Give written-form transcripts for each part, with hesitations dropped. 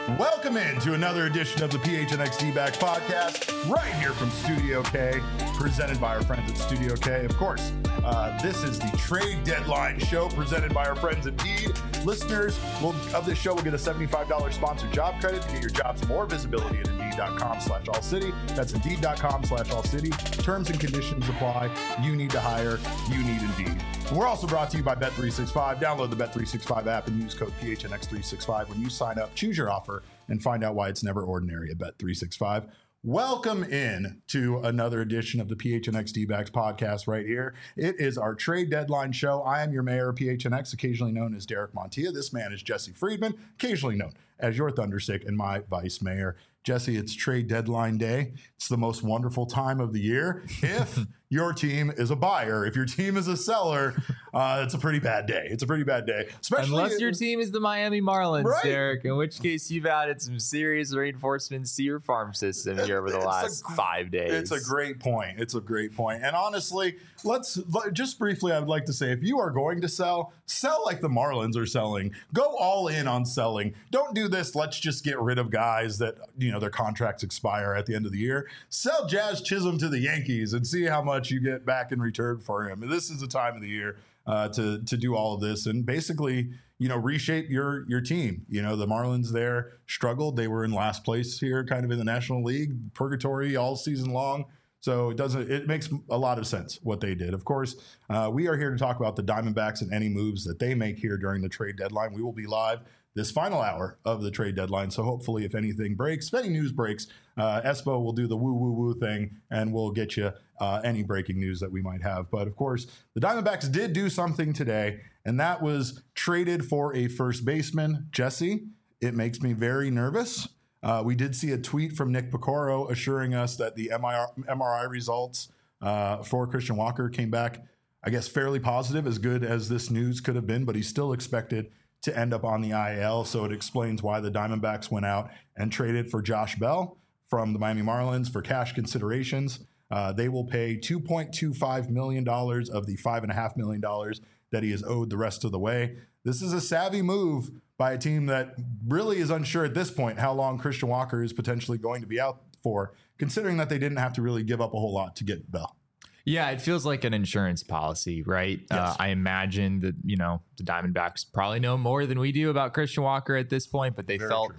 Welcome into another edition of the PHNX D-Backs podcast, right here from Studio K, presented by our friends at Studio K. Of course, this is the trade deadline show presented by our friends at Indeed. Listeners of this show will get a $75 sponsored job credit to get your jobs more visibility at Indeed.com/AllCity. That's Indeed.com/AllCity. Terms and conditions apply. You need to hire. You need Indeed. And we're also brought to you by Bet365. Download the Bet365 app and use code PHNX365 when you sign up. Choose your offer and find out why it's never ordinary at Bet365. Welcome in to another edition of the PHNX D-Backs podcast right here. It is our trade deadline show. I am your mayor of PHNX, occasionally known as Derek Montilla. This man is Jesse Friedman, occasionally known as your Thunderstick and my vice mayor. Jesse, it's trade deadline day. It's the most wonderful time of the year. If your team is a buyer, if your team is a seller, it's a pretty bad day. It's a pretty bad day. Especially unless your team is the Miami Marlins, right? Derek, in which case you've added some serious reinforcements to your farm system here over the last 5 days. It's a great point. It's a great point. And honestly, let's just briefly, I would like to say, if you are going to sell like the Marlins are selling. Go all in on selling. Don't do this, let's just get rid of guys that, their contracts expire at the end of the year. Sell Jazz Chisholm to the Yankees and see how much you get back in return for him. This is the time of the year to do all of this and basically, reshape your team. The Marlins there struggled. They were in last place here, kind of in the National League, purgatory all season long. So it makes a lot of sense what they did. Of course, we are here to talk about the Diamondbacks and any moves that they make here during the trade deadline. We will be live this final hour of the trade deadline. So hopefully if anything breaks, if any news breaks, Espo will do the woo thing and we'll get you any breaking news that we might have. But of course, the Diamondbacks did do something today, and that was traded for a first baseman. Jesse, it makes me very nervous. We did see a tweet from Nick Piecoro assuring us that the MRI results for Christian Walker came back, I guess, fairly positive, as good as this news could have been, but he's still expected to end up on the IL. So it explains why the Diamondbacks went out and traded for Josh Bell from the Miami Marlins for cash considerations. They will pay $2.25 million of the $5.5 million that he is owed the rest of the way. This is a savvy move by a team that really is unsure at this point how long Christian Walker is potentially going to be out for, considering that they didn't have to really give up a whole lot to get Bell. Yeah, it feels like an insurance policy, right? Yes. I imagine that, the Diamondbacks probably know more than we do about Christian Walker at this point, but they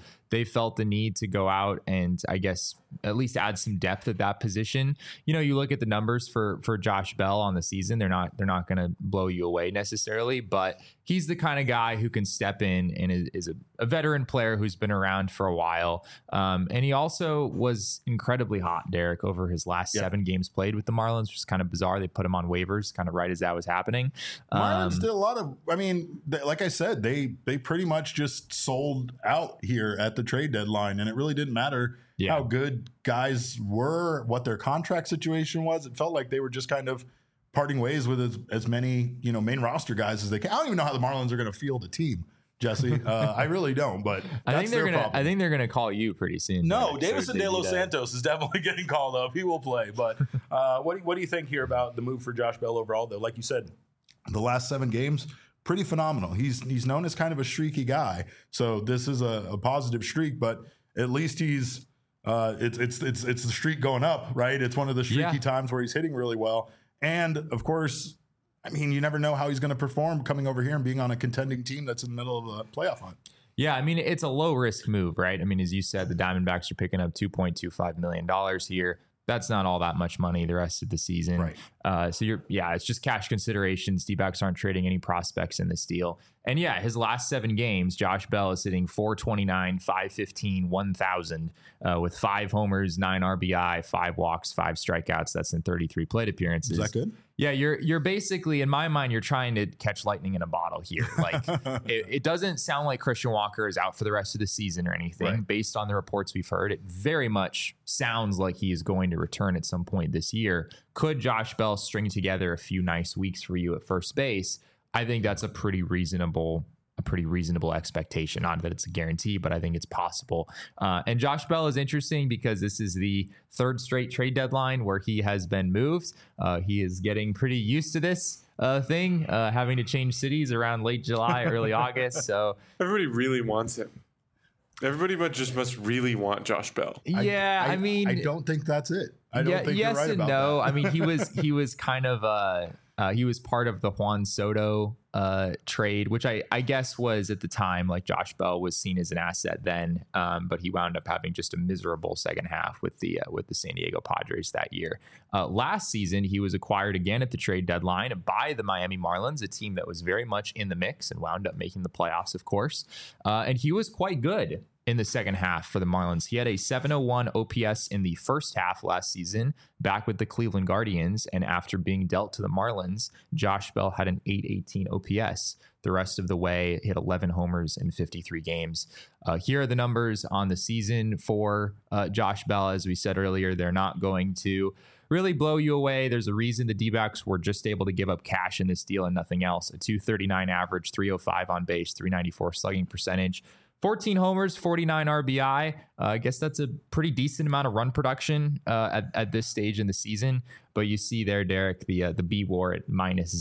felt the need to go out and, I guess, at least add some depth at that position. You look at the numbers for Josh Bell on the season. They're not going to blow you away necessarily, but he's the kind of guy who can step in and is a veteran player who's been around for a while. And he also was incredibly hot, Derek, over his last 7 games played with the Marlins, which is kind of bizarre. They put him on waivers kind of right as that was happening. Marlins did a lot of, like I said, they pretty much just sold out here at the trade deadline, and it really didn't matter how good guys were, what their contract situation was. It felt like they were just kind of parting ways with as many, main roster guys as they can. I don't even know how the Marlins are going to field a team, Jesse. I really don't, but I think they're gonna call you pretty soon. No, Davison De Los Santos is definitely getting called up. He will play. But what do you think here about the move for Josh Bell overall, though? Like you said, the last 7 games, pretty phenomenal. He's known as kind of a streaky guy. So this is a positive streak, but at least he's it's the streak going up, right? It's one of the streaky times where he's hitting really well. And of course, you never know how he's going to perform coming over here and being on a contending team that's in the middle of a playoff hunt. Yeah, it's a low risk move, right? As you said, the Diamondbacks are picking up $2.25 million here. That's not all that much money the rest of the season. Right. So it's just cash considerations. D-backs aren't trading any prospects in this deal. And his last 7 games, Josh Bell is hitting .429, .515, 1,000 with 5 homers, 9 RBI, 5 walks, 5 strikeouts. That's in 33 plate appearances. Is that good? Yeah, you're basically, in my mind, you're trying to catch lightning in a bottle here. Like it doesn't sound like Christian Walker is out for the rest of the season or anything. Right. Based on the reports we've heard, it very much sounds like he is going to return at some point this year. Could Josh Bell string together a few nice weeks for you at first base? I think that's a pretty reasonable expectation. Not that it's a guarantee, but I think it's possible. And Josh Bell is interesting because this is the 3rd straight trade deadline where he has been moved. He is getting pretty used to this thing, having to change cities around late July, early August. So everybody really wants him. Everybody must really want Josh Bell. Yeah, I mean, I don't think that's it. I don't think yes you're right and about no. that. I mean, he was kind of he was part of the Juan Soto trade, which I guess was at the time, like, Josh Bell was seen as an asset then, but he wound up having just a miserable second half with the San Diego Padres that year. Last season, he was acquired again at the trade deadline by the Miami Marlins, a team that was very much in the mix and wound up making the playoffs, of course. And he was quite good in the second half for the Marlins. He had a 701 OPS in the first half last season, back with the Cleveland Guardians. And after being dealt to the Marlins, Josh Bell had an 818 OPS. The rest of the way, hit 11 homers in 53 games. Here are the numbers on the season for Josh Bell. As we said earlier, they're not going to really blow you away. There's a reason the D-backs were just able to give up cash in this deal and nothing else. A 239 average, 305 on base, 394 slugging percentage. 14 homers, 49 RBI. I guess that's a pretty decent amount of run production at this stage in the season. But you see there, Derek, the B WAR at minus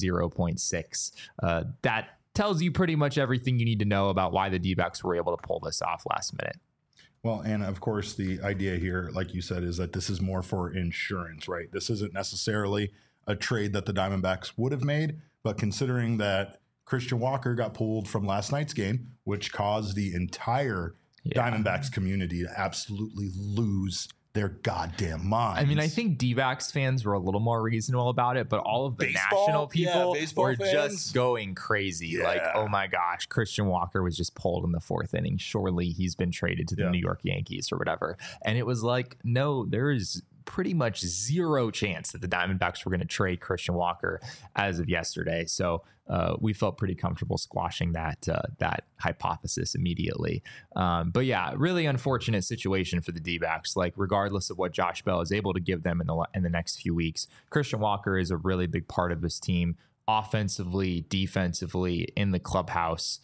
0.6. That tells you pretty much everything you need to know about why the D-backs were able to pull this off last minute. Well, and of course, the idea here, like you said, is that this is more for insurance, right? This isn't necessarily a trade that the Diamondbacks would have made, but considering that Christian Walker got pulled from last night's game, which caused the entire Diamondbacks community to absolutely lose their goddamn minds. I mean, I think D-backs fans were a little more reasonable about it, but all of the national people were just going crazy. Yeah. Like, oh my gosh, Christian Walker was just pulled in the fourth inning. Surely he's been traded to the New York Yankees or whatever. And it was like, no, there is pretty much zero chance that the Diamondbacks were going to trade Christian Walker as of yesterday. So we felt pretty comfortable squashing that hypothesis immediately. But yeah, really unfortunate situation for the D-backs. Like, regardless of what Josh Bell is able to give them in the next few weeks, Christian Walker is a really big part of this team, offensively, defensively, in the clubhouse.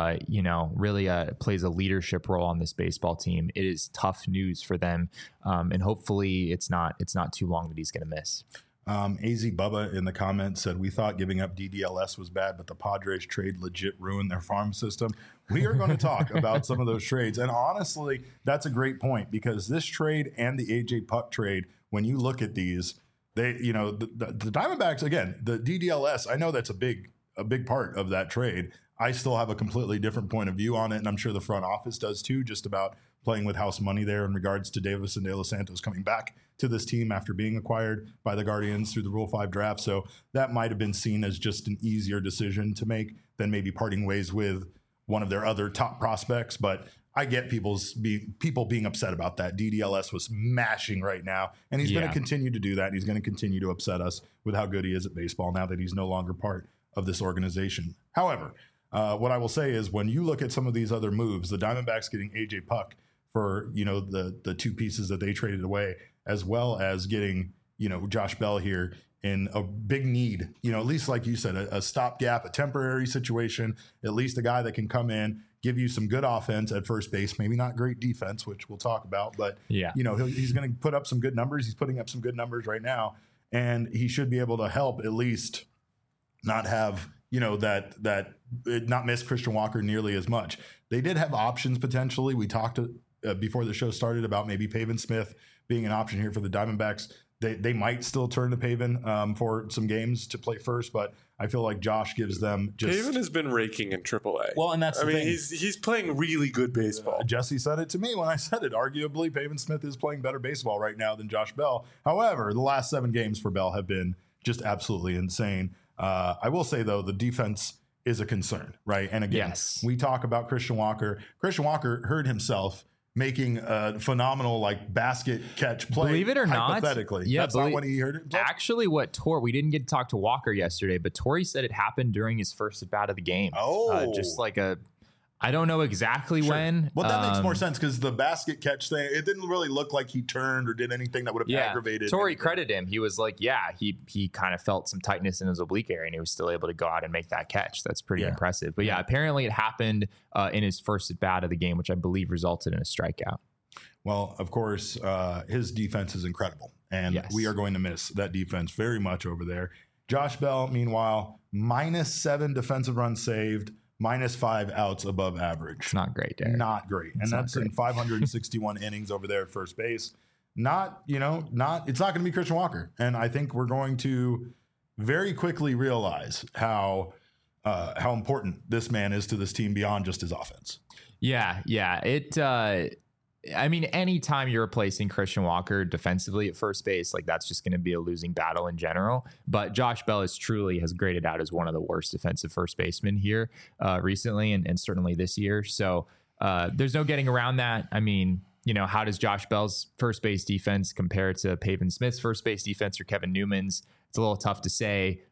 Really plays a leadership role on this baseball team. It is tough news for them, and hopefully it's not too long that he's going to miss. AZ Bubba in the comments said, we thought giving up DDLS was bad, but the Padres trade legit ruined their farm system. We are going to talk about some of those trades. And honestly, that's a great point, because this trade and the AJ Puk trade, when you look at these, the Diamondbacks, again, the DDLS, I know that's a big part of that trade. I still have a completely different point of view on it, and I'm sure the front office does too, just about playing with house money there in regards to Davis and De Los Santos coming back to this team after being acquired by the Guardians through the Rule 5 draft. So that might have been seen as just an easier decision to make than maybe parting ways with one of their other top prospects. But I get people being upset about that. DDLS was mashing right now, and he's going to continue to do that. And he's going to continue to upset us with how good he is at baseball now that he's no longer part of this organization. However, what I will say is, when you look at some of these other moves, the Diamondbacks getting AJ Puk for, the two pieces that they traded away, as well as getting, Josh Bell here in a big need, at least like you said, a stopgap, a temporary situation, at least a guy that can come in, give you some good offense at first base, maybe not great defense, which we'll talk about, but he's going to put up some good numbers. He's putting up some good numbers right now, and he should be able to help at least not have, not miss Christian Walker nearly as much. They did have options potentially. We talked before the show started about maybe Pavin Smith being an option here for the Diamondbacks. They might still turn to Pavin for some games to play first, but I feel like Josh gives them just... Pavin has been raking in AAA. Well, and that's the thing. He's playing really good baseball. Jesse said it to me when I said it. Arguably, Pavin Smith is playing better baseball right now than Josh Bell. However, the last 7 games for Bell have been just absolutely insane. I will say, though, the defense is a concern, right? And again, we talk about Christian Walker. Christian Walker hurt himself making a phenomenal basket catch play. Believe it or hypothetically. Not, that's not what he hurt himself. Actually, we didn't get to talk to Walker yesterday, but Torey said it happened during his first at bat of the game. Just like I don't know exactly when. Well, that makes more sense, because the basket catch thing, it didn't really look like he turned or did anything that would have aggravated. Torey credited him. He was like, he kind of felt some tightness in his oblique area, and he was still able to go out and make that catch. That's pretty impressive. But apparently it happened in his first at bat of the game, which I believe resulted in a strikeout. Well, of course, his defense is incredible, and we are going to miss that defense very much over there. Josh Bell, meanwhile, -7 defensive runs saved, -5 outs above average. It's not great, Derek. Not great. And that's in 561 innings over there at first base. It's not going to be Christian Walker. And I think we're going to very quickly realize how important this man is to this team beyond just his offense. Yeah. I mean, anytime you're replacing Christian Walker defensively at first base, like that's just going to be a losing battle in general. But Josh Bell has graded out as one of the worst defensive first basemen here recently and certainly this year. So there's no getting around that. I mean, how does Josh Bell's first base defense compare to Pavin Smith's first base defense or Kevin Newman's? It's a little tough to say.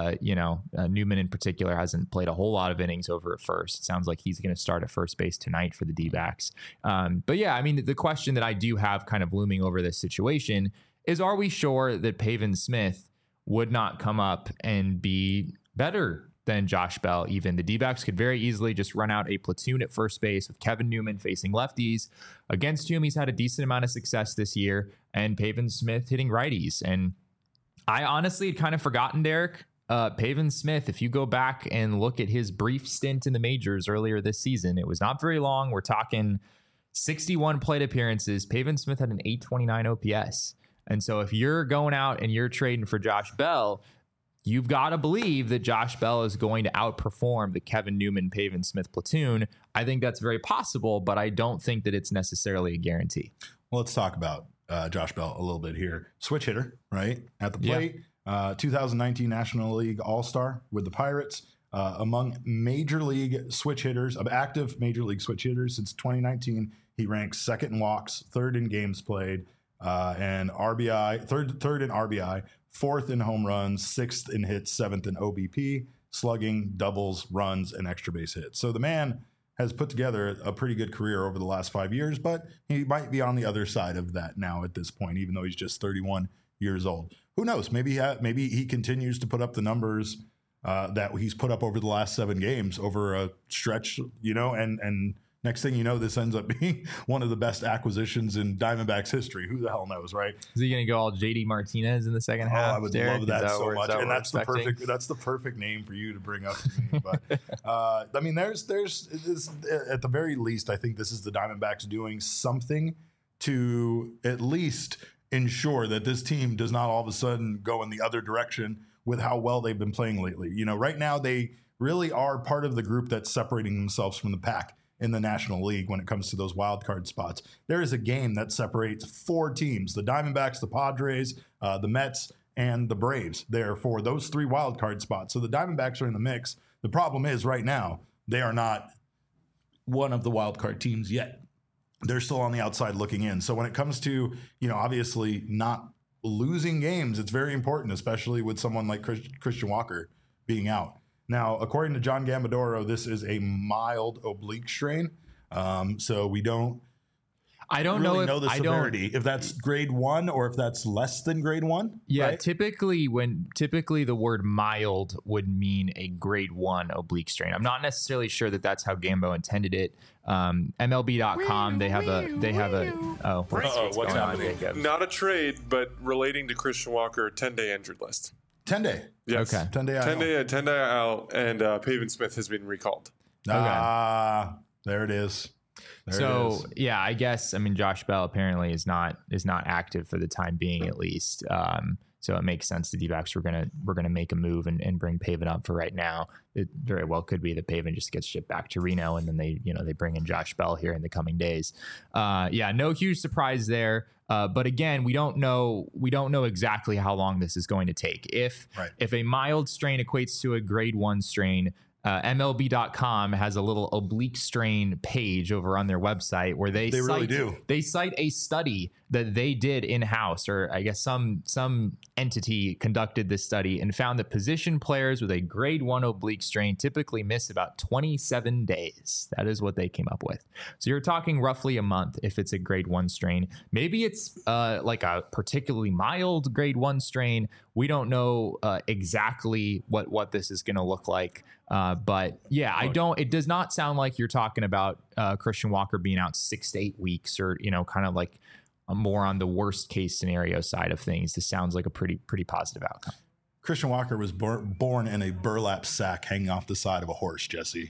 Newman in particular hasn't played a whole lot of innings over at first. It sounds like he's going to start at first base tonight for the D-backs. But yeah, I mean, the question that I do have kind of looming over this situation is, are we sure that Pavin Smith would not come up and be better than Josh Bell? Even the D-backs could very easily just run out a platoon at first base with Kevin Newman facing lefties, against whom he's had a decent amount of success this year, and Pavin Smith hitting righties. And I honestly had kind of forgotten, Derek. Pavin Smith, if you go back and look at his brief stint in the majors earlier this season, it was not very long. We're talking 61 plate appearances. Pavin Smith had an 829 OPS. And so if you're going out and you're trading for Josh Bell, you've got to believe that Josh Bell is going to outperform the Kevin Newman, Pavin Smith platoon. I think that's very possible, but I don't think that it's necessarily a guarantee. Well, let's talk about Josh Bell a little bit here. Switch hitter, right? At the plate. Yeah. 2019 National League All-Star with the Pirates. Among major league switch hitters, of active major league switch hitters since 2019, he ranks second in walks, third in games played, and RBI, third in RBI, fourth in home runs, sixth in hits, seventh in OBP, slugging, doubles, runs, and extra base hits. So the man has put together a pretty good career over the last 5 years, but he might be on the other side of that now at this point, even though he's just 31 years old. Who knows? Maybe he continues to put up the numbers that he's put up over the last 7 games over a stretch, and next thing you know, this ends up being one of the best acquisitions in Diamondbacks history. Who the hell knows, right? Is he going to go all JD Martinez in the second half? I would love that so much. And that's the perfect name for you to bring up to me. But I mean, there's at the very least, I think this is the Diamondbacks doing something to at least ensure that this team does not all of a sudden go in the other direction with how well they've been playing lately. Right now they really are part of the group that's separating themselves from the pack in the National League when it comes to those wild card spots. There is a game that separates 4 teams, the Diamondbacks, the Padres, the Mets, and the Braves, there for those 3 wild card spots. So the Diamondbacks are in the mix. The problem is right now they are not one of the wild card teams yet. They're still on the outside looking in. So when it comes to, obviously not losing games, it's very important, especially with someone like Christian Walker being out. Now, according to John Gambadoro, this is a mild oblique strain. So we don't really know the severity, if that's grade 1 or if that's less than grade 1. Yeah, right? typically the word mild would mean a grade 1 oblique strain. I'm not necessarily sure that that's how Gambo intended it. MLB.com, they have a what's happening? Not a trade, but relating to Christian Walker, 10-day injured list. 10-day. Yes. Okay. 10-day out, and Pavin Smith has been recalled. There it is. Yeah, I guess, Josh Bell apparently is not active for the time being, at least. So it makes sense the D-backs we're gonna make a move and bring Pavin up for right now. It very well could be that Pavin just gets shipped back to Reno, and then they bring in Josh Bell here in the coming days. No huge surprise there. But again, we don't know exactly how long this is going to take. If a mild strain equates to a grade 1 strain, MLB.com has a little oblique strain page over on their website where they cite a study that they did in-house, or I guess some entity conducted this study and found that position players with a grade 1 oblique strain typically miss about 27 days. That is what they came up with. So you're talking roughly a month if it's a grade 1 strain. Maybe it's like a particularly mild grade 1 strain. We don't know exactly what this is going to look like. But yeah, it does not sound like you're talking about Christian Walker being out 6 to 8 weeks, or, kind of like more on the worst case scenario side of things. This sounds like a pretty positive outcome. Christian Walker was born in a burlap sack hanging off the side of a horse, Jesse.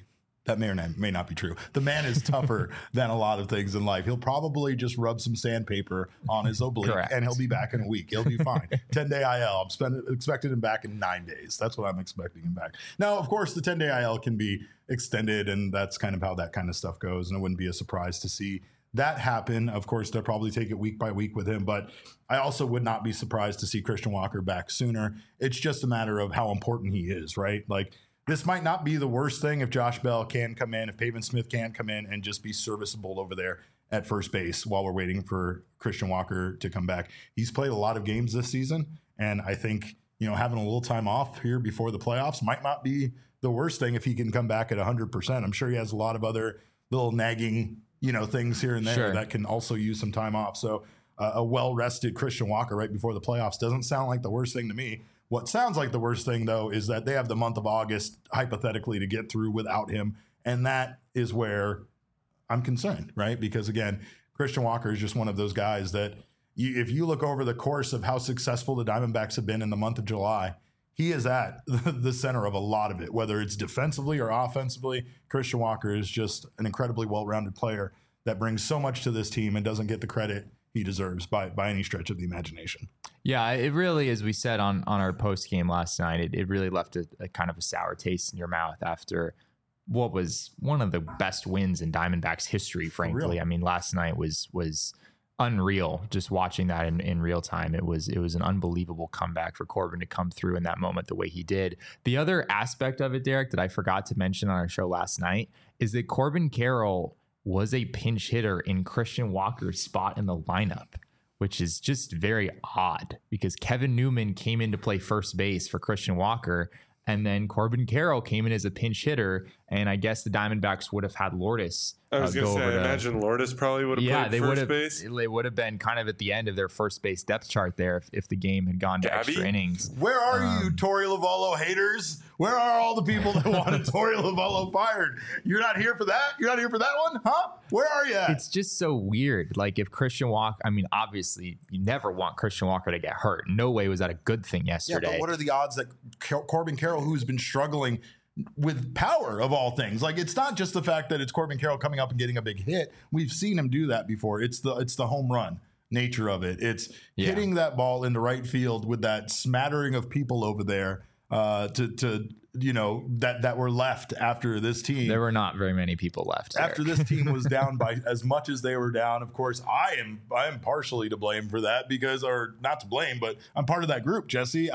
That may or may not be true. The man is tougher than a lot of things in life. He'll probably just rub some sandpaper on his oblique and he'll be back in a week. He'll be fine. 10-day IL. I'm expecting him back in 9 days. That's what I'm expecting him back. Now, of course, the 10-day IL can be extended, and that's kind of how that kind of stuff goes. And it wouldn't be a surprise to see that happen. Of course, they'll probably take it week by week with him, but I also would not be surprised to see Christian Walker back sooner. It's just a matter of how important he is, right? Like, this might not be the worst thing if Josh Bell can come in, if Pavin Smith can come in and just be serviceable over there at first base while we're waiting for Christian Walker to come back. He's played a lot of games this season, and I think, having a little time off here before the playoffs might not be the worst thing if he can come back at 100%. I'm sure he has a lot of other little nagging, things here and there that can also use some time off. So a well-rested Christian Walker right before the playoffs doesn't sound like the worst thing to me. What sounds like the worst thing, though, is that they have the month of August, hypothetically, to get through without him. And that is where I'm concerned, right? Because, again, Christian Walker is just one of those guys that if you look over the course of how successful the Diamondbacks have been in the month of July, he is at the center of a lot of it, whether it's defensively or offensively. Christian Walker is just an incredibly well-rounded player that brings so much to this team and doesn't get the credit he deserves by any stretch of the imagination. Yeah, it really, as we said on our post game last night, it really left a kind of a sour taste in your mouth after what was one of the best wins in Diamondbacks history, frankly. I mean, last night was unreal. Just watching that in real time, it was an unbelievable comeback for Corbin to come through in that moment the way he did. The other aspect of it, Derek, that I forgot to mention on our show last night is that Corbin Carroll was a pinch hitter in Christian Walker's spot in the lineup, which is just very odd because Kevin Newman came in to play first base for Christian Walker, and then Corbin Carroll came in as a pinch hitter, and I guess the Diamondbacks would have had Lourdes. I was going to say, I imagine Lourdes probably would have played first base. They would have been kind of at the end of their first base depth chart there if the game had gone to extra innings. Where are you, Torey Lovullo haters? Where are all the people that wanted Torey Lovullo fired? You're not here for that? You're not here for that one? Huh? Where are you at? It's just so weird. Like if Christian Walker, I mean, obviously you never want Christian Walker to get hurt. No way was that a good thing yesterday. Yeah, but what are the odds that Corbin Carroll, who's been struggling with power of all things, like it's not just the fact that it's Corbin Carroll coming up and getting a big hit. We've seen him do that before. It's the home run nature of it. It's hitting that ball into right field with that smattering of people over there that were left after this team. There were not very many people left after this team was down by as much as they were down. Of course, I am partially to blame for that or not to blame, but I'm part of that group, Jesse.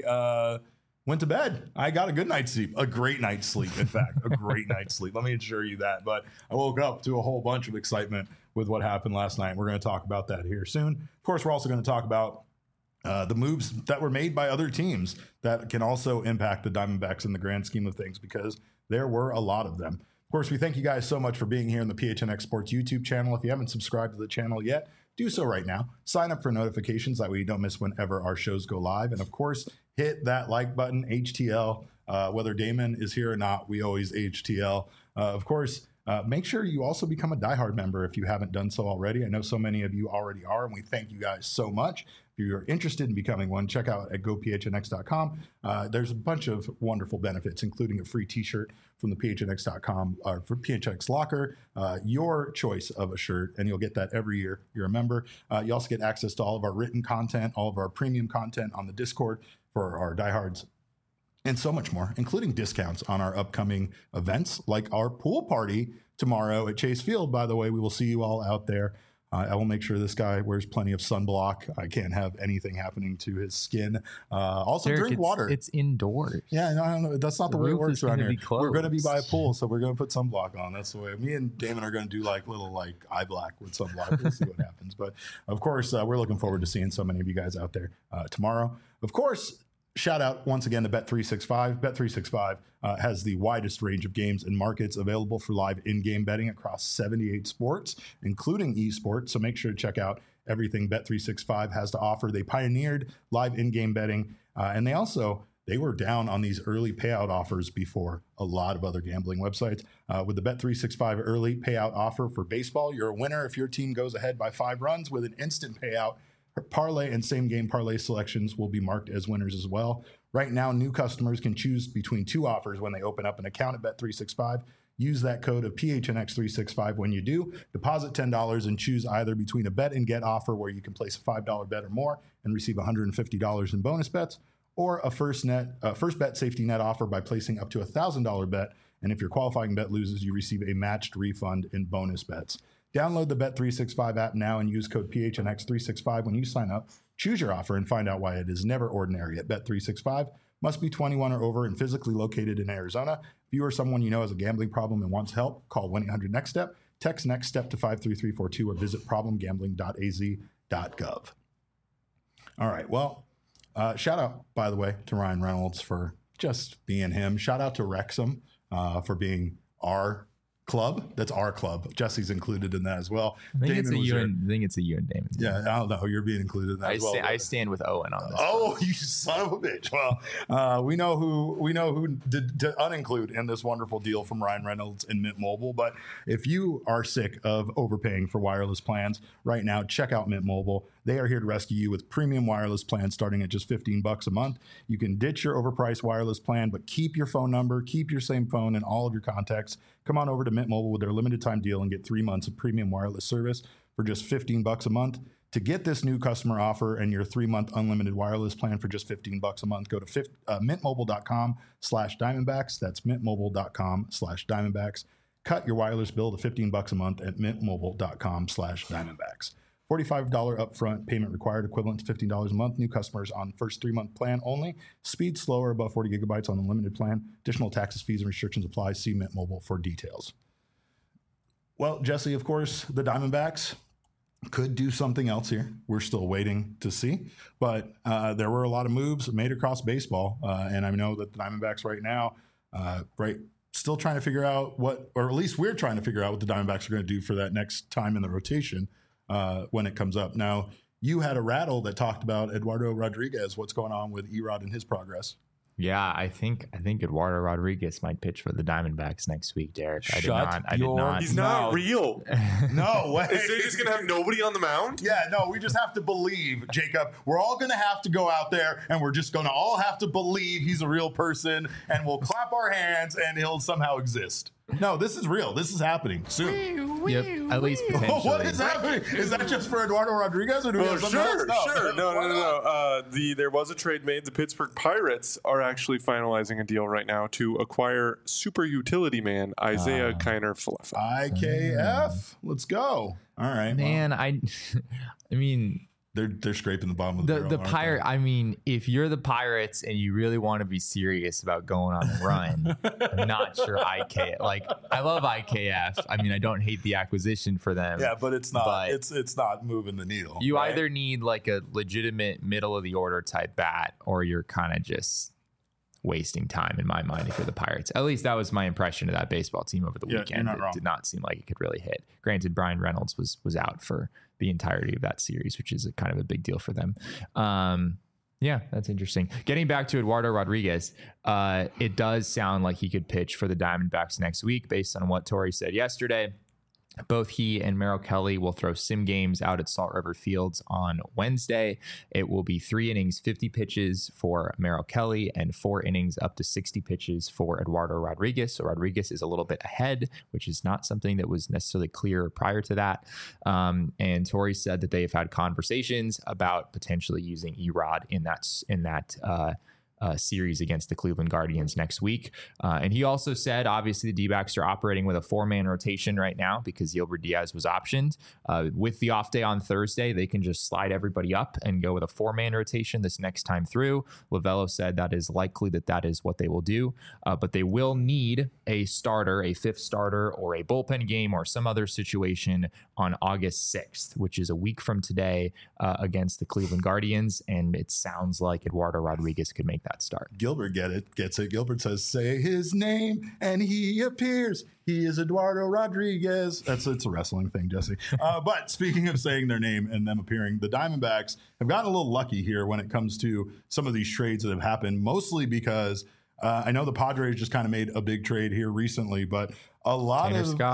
I went to bed. I got a good night's sleep, a great night's sleep, in fact, a great night's sleep. Let me assure you that. But I woke up to a whole bunch of excitement with what happened last night. We're going to talk about that here soon. Of course, we're also going to talk about the moves that were made by other teams that can also impact the Diamondbacks in the grand scheme of things, because there were a lot of them. Of course, we thank you guys so much for being here on the PHNX Sports YouTube channel. If you haven't subscribed to the channel yet, do so right now. Sign up for notifications. That way you don't miss whenever our shows go live. And of course, hit that like button, HTL. Whether Damon is here or not, we always HTL. Of course, make sure you also become a diehard member if you haven't done so already. I know so many of you already are, and we thank you guys so much. If you're interested in becoming one, check out at gophnx.com. There's a bunch of wonderful benefits, including a free t-shirt from the phnx.com or for PHNX Locker, your choice of a shirt, and you'll get that every year you're a member. You also get access to all of our written content, all of our premium content on the Discord for our diehards, and so much more, including discounts on our upcoming events, like our pool party tomorrow at Chase Field. By the way, we will see you all out there. I will make sure this guy wears plenty of sunblock. I can't have anything happening to his skin. Also, Derek, drink water. It's indoors. Yeah, no, that's not the way it works around here. We're going to be by a pool, so we're going to put sunblock on. That's the way. Me and Damon are going to do little eye black with sunblock. We'll see what happens. But of course, we're looking forward to seeing so many of you guys out there tomorrow. Of course, shout out once again to Bet365. Bet365 has the widest range of games and markets available for live in-game betting across 78 sports, including esports. So make sure to check out everything Bet365 has to offer. They pioneered live in-game betting, and they were down on these early payout offers before a lot of other gambling websites. With the Bet365 early payout offer for baseball, you're a winner if your team goes ahead by 5 runs with an instant payout. Parlay and same game parlay selections will be marked as winners as well. Right now, new customers can choose between 2 offers when they open up an account at Bet365. Use that code of PHNX365 when you do. Deposit $10 and choose either between a bet and get offer where you can place a $5 bet or more and receive $150 in bonus bets, or a first bet safety net offer by placing up to $1,000 bet. And if your qualifying bet loses, you receive a matched refund in bonus bets. Download the Bet365 app now and use code PHNX365 when you sign up. Choose your offer and find out why it is never ordinary at Bet365. Must be 21 or over and physically located in Arizona. If you or someone you know has a gambling problem and wants help, call 1-800-NEXT-STEP, text NEXT STEP to 53342, or visit problemgambling.az.gov. All right, well, shout out, by the way, to Ryan Reynolds for just being him. Shout out to Wrexham for being our club. That's our club. Jesse's included in that as well. I think it's a you and Damon. Yeah, I don't know. You're being included in that as well. I stand with Owen on this. Oh, you son of a bitch. Well, we know who did to uninclude in this wonderful deal from Ryan Reynolds and Mint Mobile. But if you are sick of overpaying for wireless plans right now, check out Mint Mobile. They are here to rescue you with premium wireless plans starting at just $15 a month. You can ditch your overpriced wireless plan, but keep your phone number, keep your same phone and all of your contacts. Come on over to Mint Mobile with their limited time deal and get 3 months of premium wireless service for just $15 a month. To get this new customer offer and your 3-month unlimited wireless plan for just $15 a month, go to mintmobile.com/Diamondbacks. That's mintmobile.com/Diamondbacks. Cut your wireless bill to $15 a month at mintmobile.com/Diamondbacks. $45 upfront payment required, equivalent to $15 a month. New customers on first 3-month plan only. Speed slower, above 40 gigabytes on the limited plan. Additional taxes, fees, and restrictions apply. See Mint Mobile for details. Well, Jesse, of course, the Diamondbacks could do something else here. We're still waiting to see. But there were a lot of moves made across baseball. And I know that the Diamondbacks right now, still trying to figure out what, or at least we're trying to figure out what the Diamondbacks are going to do for that next time in the rotation. When it comes up. Now, you had a rattle that talked about Eduardo Rodriguez. What's going on with Erod and his progress? Yeah, I think Eduardo Rodriguez might pitch for the Diamondbacks next week, Derek. I did not. He's not real. No way. Is they just going to have nobody on the mound? Yeah, no, we just have to believe, Jacob. We're all going to have to go out there and we're just going to all have to believe he's a real person and we'll clap our hands and he'll somehow exist. No, this is real. This is happening soon. Yep, at least potentially. What is happening? Is that just for Eduardo Rodriguez, or do we have something else? Sure. No. There was a trade made. The Pittsburgh Pirates are actually finalizing a deal right now to acquire super utility man Isaiah Kiner-Falefa. IKF. Let's go. All right, man. Well. I mean. They're scraping the bottom of the barrel, Pirate. I mean, if you're the Pirates and you really want to be serious about going on a run, I'm not sure IKF. Like, I love IKF. I mean, I don't hate the acquisition for them. Yeah, but it's not. But it's not moving the needle. You either need like a legitimate middle of the order type bat, or you're kind of just wasting time in my mind if you're the Pirates. At least that was my impression of that baseball team over the weekend. It did not seem like it could really hit. Granted, Brian Reynolds was out for the entirety of that series, which is kind of a big deal for them. Yeah, that's interesting. Getting back to Eduardo Rodriguez, it does sound like he could pitch for the Diamondbacks next week based on what Torey said yesterday. Both he and Merrill Kelly will throw sim games out at Salt River Fields on Wednesday. It will be 3 innings, 50 pitches for Merrill Kelly, and 4 innings up to 60 pitches for Eduardo Rodriguez. So Rodriguez is a little bit ahead, which is not something that was necessarily clear prior to that. And Torey said that they have had conversations about potentially using Erod in that series against the Cleveland Guardians next week. And he also said, obviously, the D-backs are operating with a 4-man rotation right now because Gilbert Diaz was optioned. With the off day on Thursday, they can just slide everybody up and go with a 4-man rotation this next time through. Lovello said that is likely that is what they will do, but they will need a starter, a 5th starter, or a bullpen game or some other situation on August 6th, which is a week from today, against the Cleveland Guardians. And it sounds like Eduardo Rodriguez could make that start. Gilbert gets it. Gilbert says, say his name and he appears. He is Eduardo Rodriguez. It's a wrestling thing, Jesse. But speaking of saying their name and them appearing, the Diamondbacks have gotten a little lucky here when it comes to some of these trades that have happened, mostly because I know the Padres just kind of made a big trade here recently, but a lot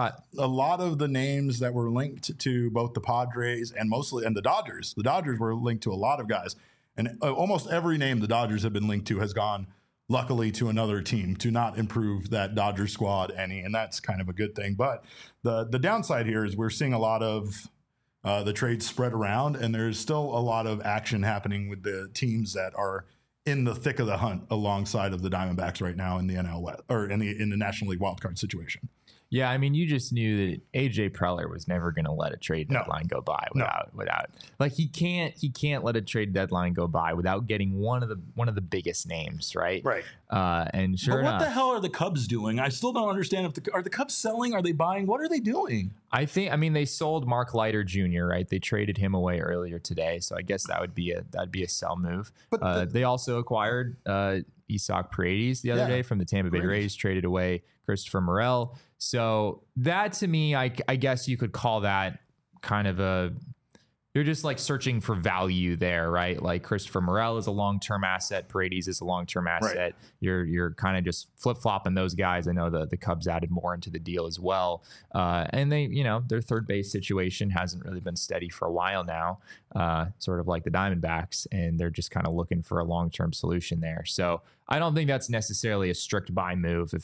of the names that were linked to both the Padres and the Dodgers were linked to a lot of guys. And almost every name the Dodgers have been linked to has gone luckily to another team to not improve that Dodger squad any, and that's kind of a good thing. But the downside here is we're seeing a lot of the trades spread around, and there's still a lot of action happening with the teams that are in the thick of the hunt alongside of the Diamondbacks right now in the NL West, or in the National League wildcard situation. Yeah, I mean, you just knew that AJ Preller was never going to let a trade deadline go by without like he can't let a trade deadline go by without getting one of the biggest names, right? Right. And sure enough, what the hell are the Cubs doing? I still don't understand are the Cubs selling? Are they buying? What are they doing? I mean, they sold Mark Leiter Jr., right? They traded him away earlier today, so I guess that'd be a sell move. But they also acquired Isaac Paredes the other day from the Tampa Bay Rays, traded away Christopher Morel. So that, to me, I guess you could call that kind of you're just like searching for value there, right? Like Christopher Morel is a long-term asset. Paredes is a long-term asset. Right. You're kind of just flip-flopping those guys. I know the Cubs added more into the deal as well. And they, their third base situation hasn't really been steady for a while now, sort of like the Diamondbacks, and they're just kind of looking for a long-term solution there. So I don't think that's necessarily a strict buy move.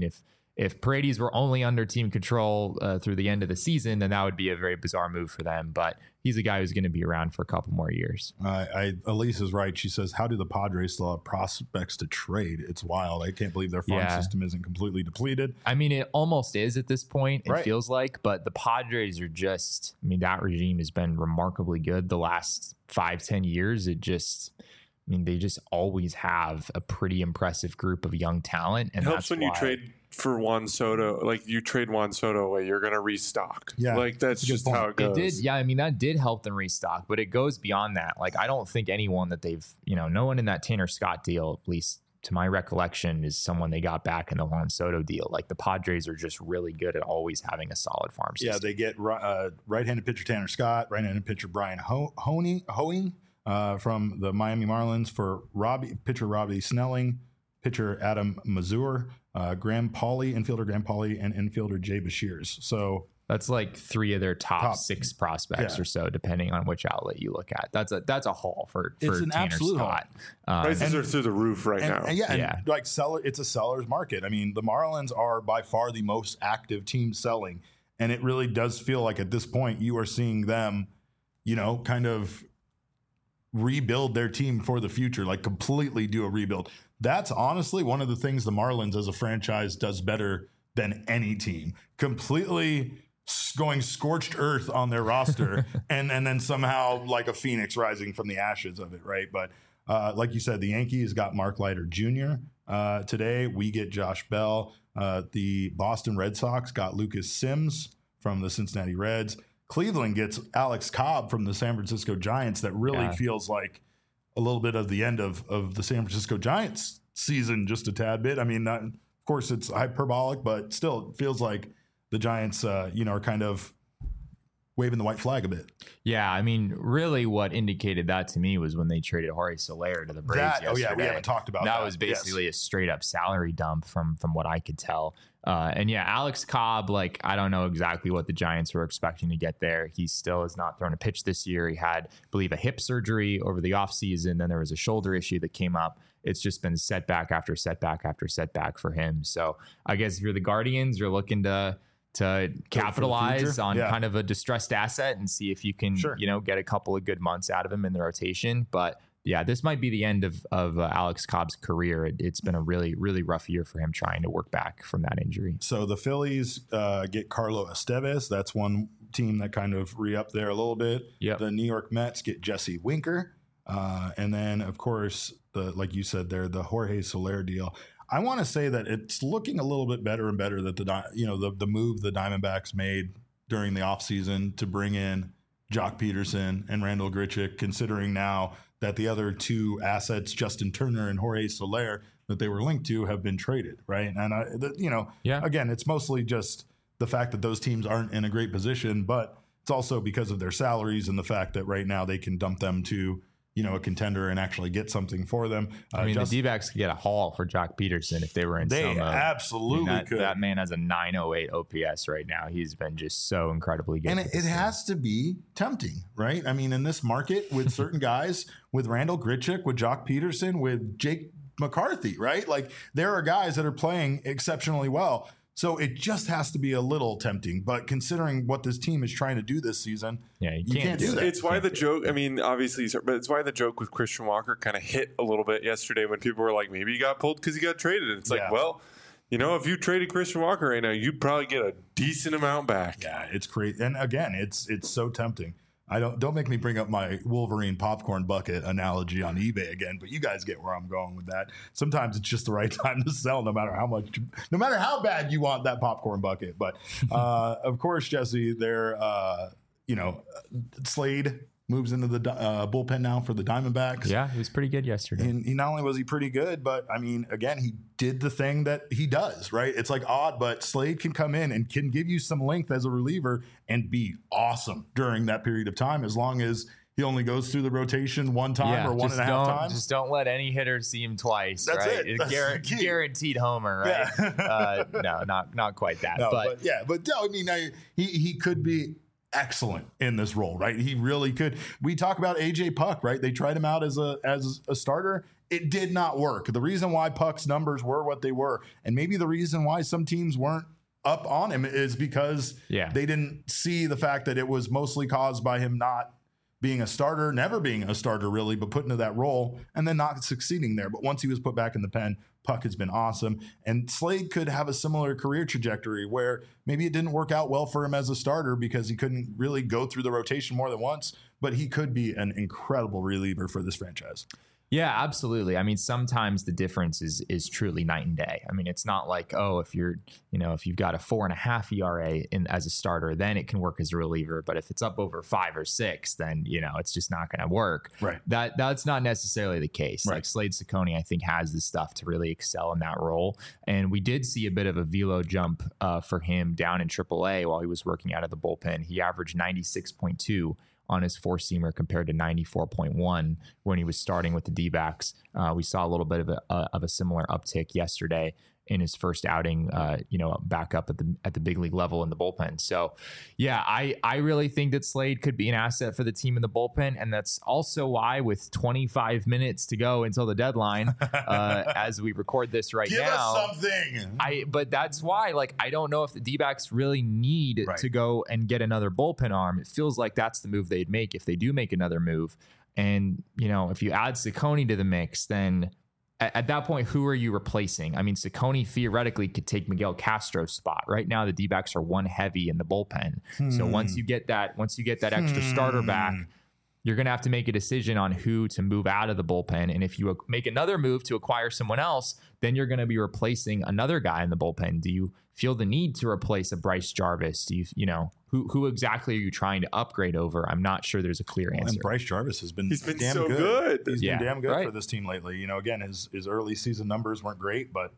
If Paredes were only under team control through the end of the season, then that would be a very bizarre move for them. But he's a guy who's going to be around for a couple more years. Elise is right. She says, how do the Padres still have prospects to trade? It's wild. I can't believe their farm system isn't completely depleted. I mean, it almost is at this point, it feels like. But the Padres are just, that regime has been remarkably good the last 5-10 years. They just always have a pretty impressive group of young talent. And it helps when you trade for Juan Soto. Like, you trade Juan Soto away, you're going to restock. Yeah, like that's just how it goes. It did, that did help them restock, but it goes beyond that. Like, I don't think anyone that they've, no one in that Tanner Scott deal, at least to my recollection, is someone they got back in the Juan Soto deal. Like, the Padres are just really good at always having a solid farm system. Yeah, they get right-handed pitcher Tanner Scott, right-handed pitcher Brian Hoeing. From the Miami Marlins for pitcher Robbie Snelling, pitcher Adam Mazur, infielder Graham Pauley, and infielder Jay Bashirs. So that's like 3 of their top 6 prospects or so, depending on which outlet you look at. That's a haul for it's an Tanner absolute Scott. Prices are through the roof right now. It's a seller's market. I mean, the Marlins are by far the most active team selling, and it really does feel like at this point you are seeing them, kind of rebuild their team for the future, like completely do a rebuild. That's honestly one of the things the Marlins as a franchise does better than any team. Completely going scorched earth on their roster and then somehow like a phoenix rising from the ashes of it, right? But like you said, the Yankees got Mark Leiter Jr. Today. We get Josh Bell. The Boston Red Sox got Lucas Sims from the Cincinnati Reds. Cleveland gets Alex Cobb from the San Francisco Giants. That really feels like a little bit of the end of the San Francisco Giants season, just a tad bit. I mean, of course, it's hyperbolic, but still, it feels like the Giants, are kind of waving the white flag a bit. Yeah, I mean, really what indicated that to me was when they traded Jorge Soler to the Braves yesterday. Oh, yeah, we haven't talked about that. That was basically a straight-up salary dump from what I could tell. Alex Cobb, I don't know exactly what the Giants were expecting to get there. He still has not thrown a pitch this year. He had, I believe, a hip surgery over the offseason. Then there was a shoulder issue that came up. It's just been setback after setback after setback for him. So I guess if you're the Guardians, you're looking to capitalize on kind of a distressed asset and see if you can, get a couple of good months out of him in the rotation. But yeah, this might be the end of Alex Cobb's career. It's been a really, really rough year for him trying to work back from that injury. So the Phillies get Carlo Estevez. That's one team that kind of re-upped there a little bit. Yep. The New York Mets get Jesse Winker. And then, of course, like you said there, the Jorge Soler deal. I want to say that it's looking a little bit better and better that the move the Diamondbacks made during the offseason to bring in Jock Peterson and Randall Grichuk, considering now that the other 2 assets, Justin Turner and Jorge Soler, that they were linked to have been traded, right? And, again, it's mostly just the fact that those teams aren't in a great position, but it's also because of their salaries and the fact that right now they can dump them to a contender and actually get something for them. The D-backs could get a haul for Jock Peterson if they were in They absolutely could. That man has a 908 OPS right now. He's been just so incredibly good. And it has to be tempting, right? I mean, in this market with certain guys, with Randall Grichuk, with Jock Peterson, with Jake McCarthy, right? Like there are guys that are playing exceptionally well. So it just has to be a little tempting. But considering what this team is trying to do this season, you can't do that. It's why the joke, I mean, obviously, but it's why the joke with Christian Walker kind of hit a little bit yesterday when people were like, maybe he got pulled because he got traded. And it's like, well, you know, if you traded Christian Walker right now, you'd probably get a decent amount back. Yeah, it's crazy. And again, it's so tempting. Don't make me bring up my Wolverine popcorn bucket analogy on eBay again, but you guys get where I'm going with that. Sometimes it's just the right time to sell, no matter how bad you want that popcorn bucket. But of course, Jesse, Slade moves into the bullpen now for the Diamondbacks. Yeah, he was pretty good yesterday. And he not only was he pretty good, but I mean, again, he did the thing that he does, right? It's like odd, but Slade can come in and can give you some length as a reliever and be awesome during that period of time, as long as he only goes through the rotation one time or 1.5 times. Just don't let any hitter see him twice. That's right? it. That's guaranteed homer, right? Yeah. No, not quite that. No, but I mean, he could be excellent in this role, right? He really could. We talk about AJ Puck, right? They tried him out as a starter. It did not work. The reason why Puck's numbers were what they were, and maybe the reason why some teams weren't up on him, is because they didn't see the fact that it was mostly caused by him not being a starter, never being a starter really, but put into that role and then not succeeding there. But once he was put back in the pen, Puck has been awesome. And Slade could have a similar career trajectory where maybe it didn't work out well for him as a starter because he couldn't really go through the rotation more than once, but he could be an incredible reliever for this franchise. Yeah, absolutely. I mean, sometimes the difference is truly night and day. I mean, it's not like, if you've got a 4.5 ERA as a starter, then it can work as a reliever. But if it's up over 5 or 6, then, it's just not going to work. Right. That's not necessarily the case. Right. Like Slade Cecconi, I think, has the stuff to really excel in that role. And we did see a bit of a velo jump for him down in AAA while he was working out of the bullpen. He averaged 96.2 on his four-seamer compared to 94.1 when he was starting with the D-backs. We saw a little bit of a similar uptick yesterday in his first outing, back up at the big league level in the bullpen. So, yeah, I really think that Slade could be an asset for the team in the bullpen, and that's also why, with 25 minutes to go until the deadline, as we record this now, give us something. But that's why, I don't know if the D-backs really need to go and get another bullpen arm. It feels like that's the move they'd make if they do make another move. And if you add Cecconi to the mix, then at that point, who are you replacing? I mean, Cecconi theoretically could take Miguel Castro's spot. Right now, the D-backs are one heavy in the bullpen. So once you get that extra starter back, you're going to have to make a decision on who to move out of the bullpen. And if you make another move to acquire someone else, then you're going to be replacing another guy in the bullpen. Do you feel the need to replace a Bryce Jarvis? Do who exactly are you trying to upgrade over? I'm not sure there's a clear answer. And Bryce Jarvis has been damn so good. He's been damn good for this team lately. Again, his early season numbers weren't great, but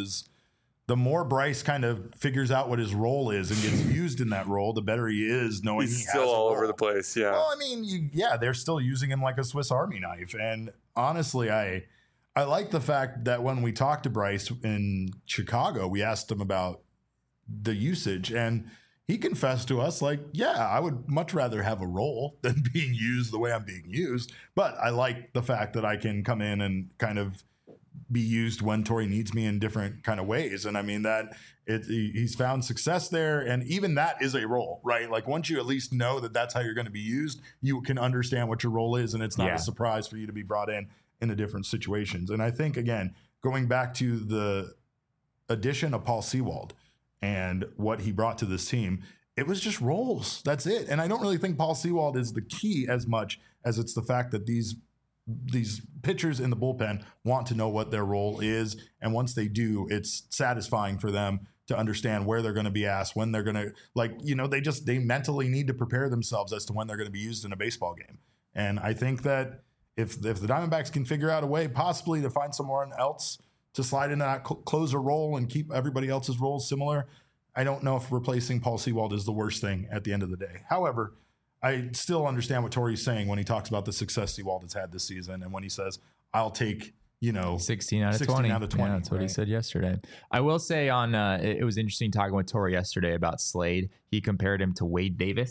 the more Bryce kind of figures out what his role is and gets used in that role, the better he is knowing he's he has still all a role. over the place. Yeah. Well, I mean, they're still using him like a Swiss Army knife. And honestly, I like the fact that when we talked to Bryce in Chicago, we asked him about the usage, and he confessed to us I would much rather have a role than being used the way I'm being used. But I like the fact that I can come in and kind of be used when Torey needs me in different kind of ways. And I mean that he's found success there. And even that is a role, right? Like once you at least know that that's how you're going to be used, you can understand what your role is. And it's not a surprise for you to be brought in the different situations. And I think, again, going back to the addition of Paul Sewald and what he brought to this team, it was just roles. That's it. And I don't really think Paul Sewald is the key as much as it's the fact that these pitchers in the bullpen want to know what their role is. And once they do, it's satisfying for them to understand where they're going to be asked, when they're going to, they mentally need to prepare themselves as to when they're going to be used in a baseball game. And I think that if the Diamondbacks can figure out a way possibly to find someone else to slide into that closer role and keep everybody else's roles similar, I don't know if replacing Paul Sewald is the worst thing at the end of the day. However, I still understand what Torey's saying when he talks about the success Sewald has had this season and when he says, I'll take, 16 out of 20. Yeah, that's what he said yesterday. I will say it was interesting talking with Torey yesterday about Slade. He compared him to Wade Davis.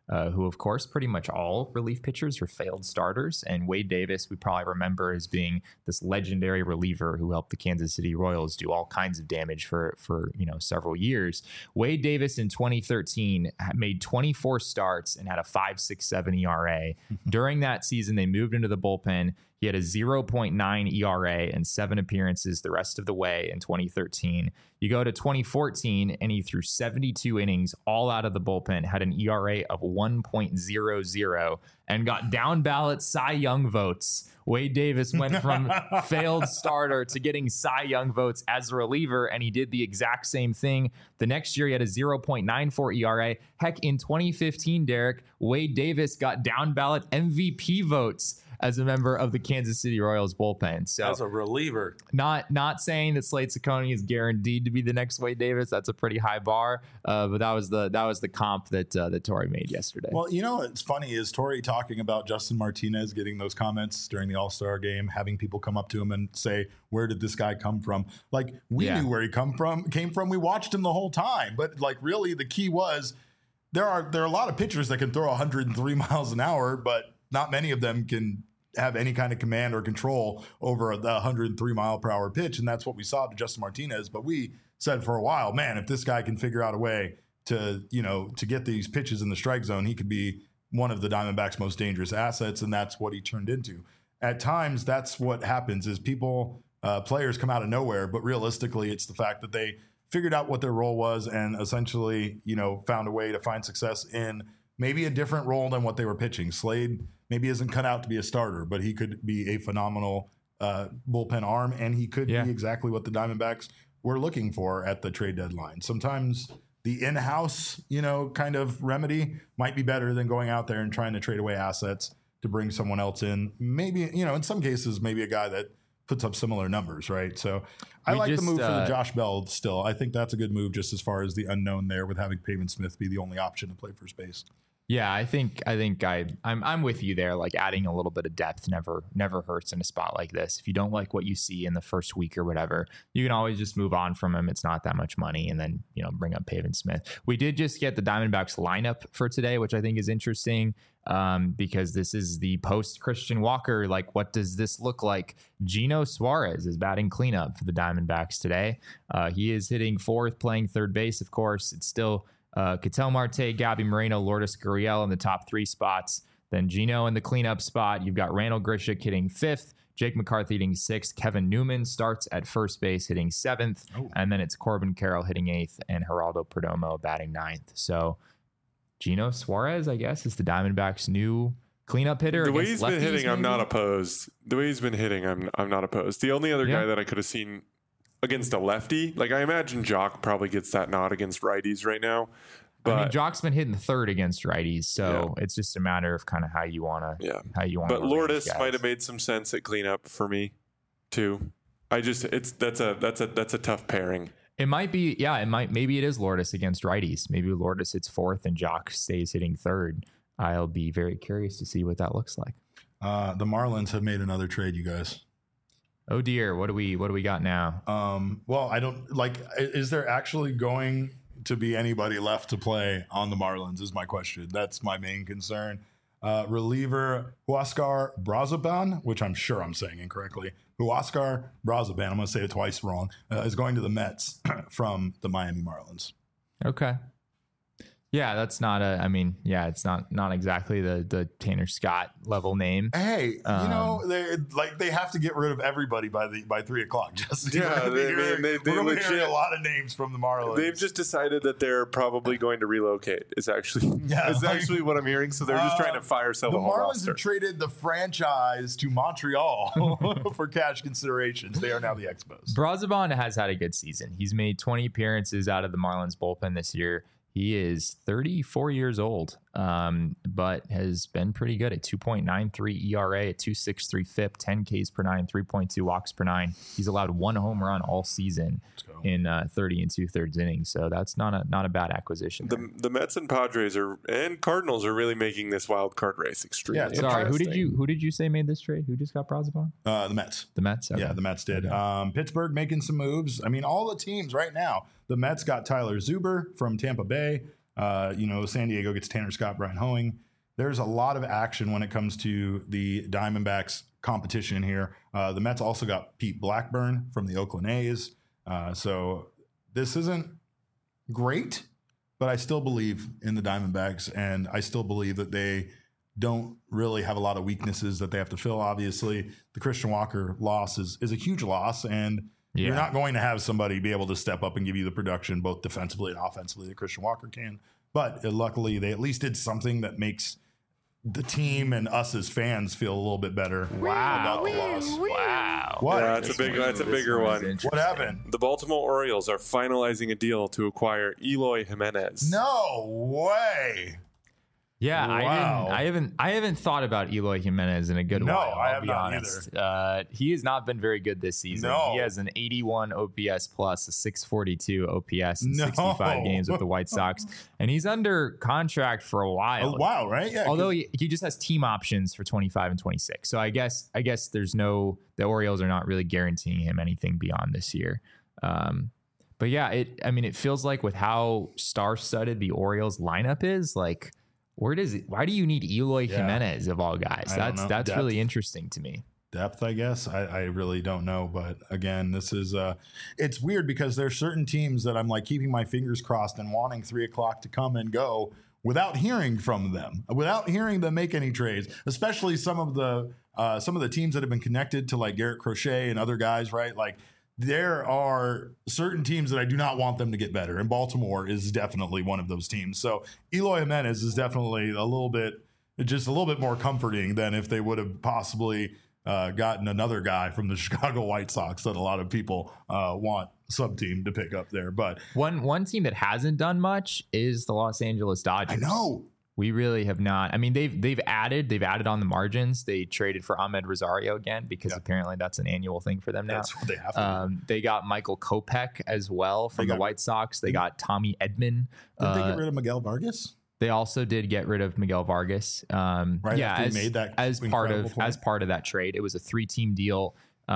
who, of course, pretty much all relief pitchers are failed starters. And Wade Davis, we probably remember as being this legendary reliever who helped the Kansas City Royals do all kinds of damage for several years. Wade Davis in 2013 made 24 starts and had a 5.67 ERA. During that season, they moved into the bullpen. He had a 0.9 ERA and 7 appearances the rest of the way in 2013. You go to 2014, and he threw 72 innings all out of the bullpen, had an ERA of 1.00, and got down ballot Cy Young votes. Wade Davis went from failed starter to getting Cy Young votes as a reliever, and he did the exact same thing. The next year, he had a 0.94 ERA. Heck, in 2015, Derek, Wade Davis got down ballot MVP votes as a member of the Kansas City Royals bullpen. So as a reliever, not saying that Slade Cecconi is guaranteed to be the next Wade Davis. That's a pretty high bar. But that was the comp that Torey made yesterday. Well, what's funny is Torey talking about Justin Martinez getting those comments during the All-Star game, having people come up to him and say, "Where did this guy come from?" Like we knew where he came from. We watched him the whole time. But like really, the key was there are a lot of pitchers that can throw 103 miles an hour, but not many of them can have any kind of command or control over the 103 mile per hour pitch. And that's what we saw to Justin Martinez. But we said for a while, man, if this guy can figure out a way to get these pitches in the strike zone, he could be one of the Diamondbacks' most dangerous assets. And that's what he turned into. At times, that's what happens is players come out of nowhere. But realistically, it's the fact that they figured out what their role was and essentially, found a way to find success in maybe a different role than what they were pitching. Slade maybe isn't cut out to be a starter, but he could be a phenomenal bullpen arm, and he could be exactly what the Diamondbacks were looking for at the trade deadline. Sometimes the in-house, kind of remedy might be better than going out there and trying to trade away assets to bring someone else in. Maybe, in some cases, maybe a guy that puts up similar numbers, right? So I like the move for the Josh Bell still. I think that's a good move just as far as the unknown there with having Pavin Smith be the only option to play first base. Yeah, I think I'm with you there. Like adding a little bit of depth never hurts in a spot like this. If you don't like what you see in the first week or whatever, you can always just move on from him. It's not that much money, and then bring up Pavin Smith. We did just get the Diamondbacks lineup for today, which I think is interesting because this is the post Christian Walker. Like, what does this look like? Gino Suarez is batting cleanup for the Diamondbacks today. He is hitting fourth, playing third base. Of course, it's still Ketel Marte, Gabby Moreno, Lourdes Gurriel in the top 3 spots. Then Gino in the cleanup spot. You've got Randall Grichuk hitting 5th, Jake McCarthy hitting 6th, Kevin Newman starts at first base hitting 7th, and then it's Corbin Carroll hitting 8th and Geraldo Perdomo batting 9th. So Gino Suarez, I guess, is the Diamondbacks' new cleanup hitter. The way he's been hitting, I'm not opposed. The way he's been hitting, I'm not opposed. The only other guy that I could have seen against a lefty, like I imagine Jock probably gets that nod against righties right now. But Jock's been hitting third against righties, so it's just a matter of kind of how you want to. But Lourdes might have made some sense at cleanup for me, too. That's a tough pairing. It might be, maybe it is Lourdes against righties. Maybe Lourdes hits 4th and Jock stays hitting 3rd. I'll be very curious to see what that looks like. The Marlins have made another trade, you guys. Oh dear, what do we got now? Well, I don't is there actually going to be anybody left to play on the Marlins is my question. That's my main concern. Reliever Huascar Brazoban, which I'm sure I'm saying incorrectly. Huascar Brazoban, I'm going to say it twice wrong, is going to the Mets from the Miami Marlins. Okay. Yeah, that's not it's not exactly the Tanner Scott level name. Hey, they have to get rid of everybody by 3:00. Just they legit hear a lot of names from the Marlins. They've just decided that they're probably going to relocate. It's actually what I'm hearing. So they're just trying to fire sell the whole roster. The Marlins have traded the franchise to Montreal for cash considerations. They are now the Expos. Brazoban has had a good season. He's made 20 appearances out of the Marlins bullpen this year. He is 34 years old, but has been pretty good at 2.93 ERA, at 2.63 FIP, 10 Ks per 9, 3.2 walks per 9. He's allowed 1 home run all season in 30 2/3 innings. So that's not a bad acquisition. The Mets and Padres and Cardinals are really making this wild card race extremely interesting. Sorry, who did you say made this trade? Who just got Brazoban? The Mets. The Mets? Okay. Yeah, the Mets did. Pittsburgh making some moves. I mean, all the teams right now. The Mets got Tyler Zuber from Tampa Bay. San Diego gets Tanner Scott, Brian Hoeing. There's a lot of action when it comes to the Diamondbacks competition here. The Mets also got Pete Blackburn from the Oakland A's. So this isn't great, but I still believe in the Diamondbacks, and I still believe that they don't really have a lot of weaknesses that they have to fill. Obviously, the Christian Walker loss is a huge loss, and you're not going to have somebody be able to step up and give you the production both defensively and offensively that Christian Walker can. But luckily, they at least did something that makes the team and us as fans feel a little bit better about the loss. Wow. What? Yeah, that's a bigger one. What happened? The Baltimore Orioles are finalizing a deal to acquire Eloy Jimenez. No way. Yeah, Wow. I haven't thought about Eloy Jimenez in a good while. I I'll have be not honest. He has not been very good this season. No. He has an 81 OPS plus, a 642 OPS in 65 games with the White Sox, and he's under contract for a while. Wow, right? Yeah. Although he just has team options for 25 and 26. So I guess the Orioles are not really guaranteeing him anything beyond this year. But yeah, it feels like with how star-studded the Orioles lineup is, like, why do you need Eloy Jimenez of all guys? That's really interesting to me. Depth, I guess. I really don't know. But again, this is it's weird because there's certain teams that I'm like keeping my fingers crossed and wanting 3 o'clock to come and go without hearing from them, without hearing them make any trades, especially some of the teams that have been connected to like Garrett Crochet and other guys, right? Like, there are certain teams that I do not want them to get better, and Baltimore is definitely one of those teams. So Eloy Jimenez is definitely a little bit more comforting than if they would have possibly gotten another guy from the Chicago White Sox that a lot of people want some team to pick up there. But one team that hasn't done much is the Los Angeles Dodgers. I know. We really have not. I mean, they've added on the margins. They traded for Ahmed Rosario again because apparently that's an annual thing for them now. That's what they have to do. They got Michael Kopech as well from the White Sox. They got Tommy Edman. Did they get rid of Miguel Vargas? They also did get rid of Miguel Vargas. After he made that as part of that trade. It was a 3-team deal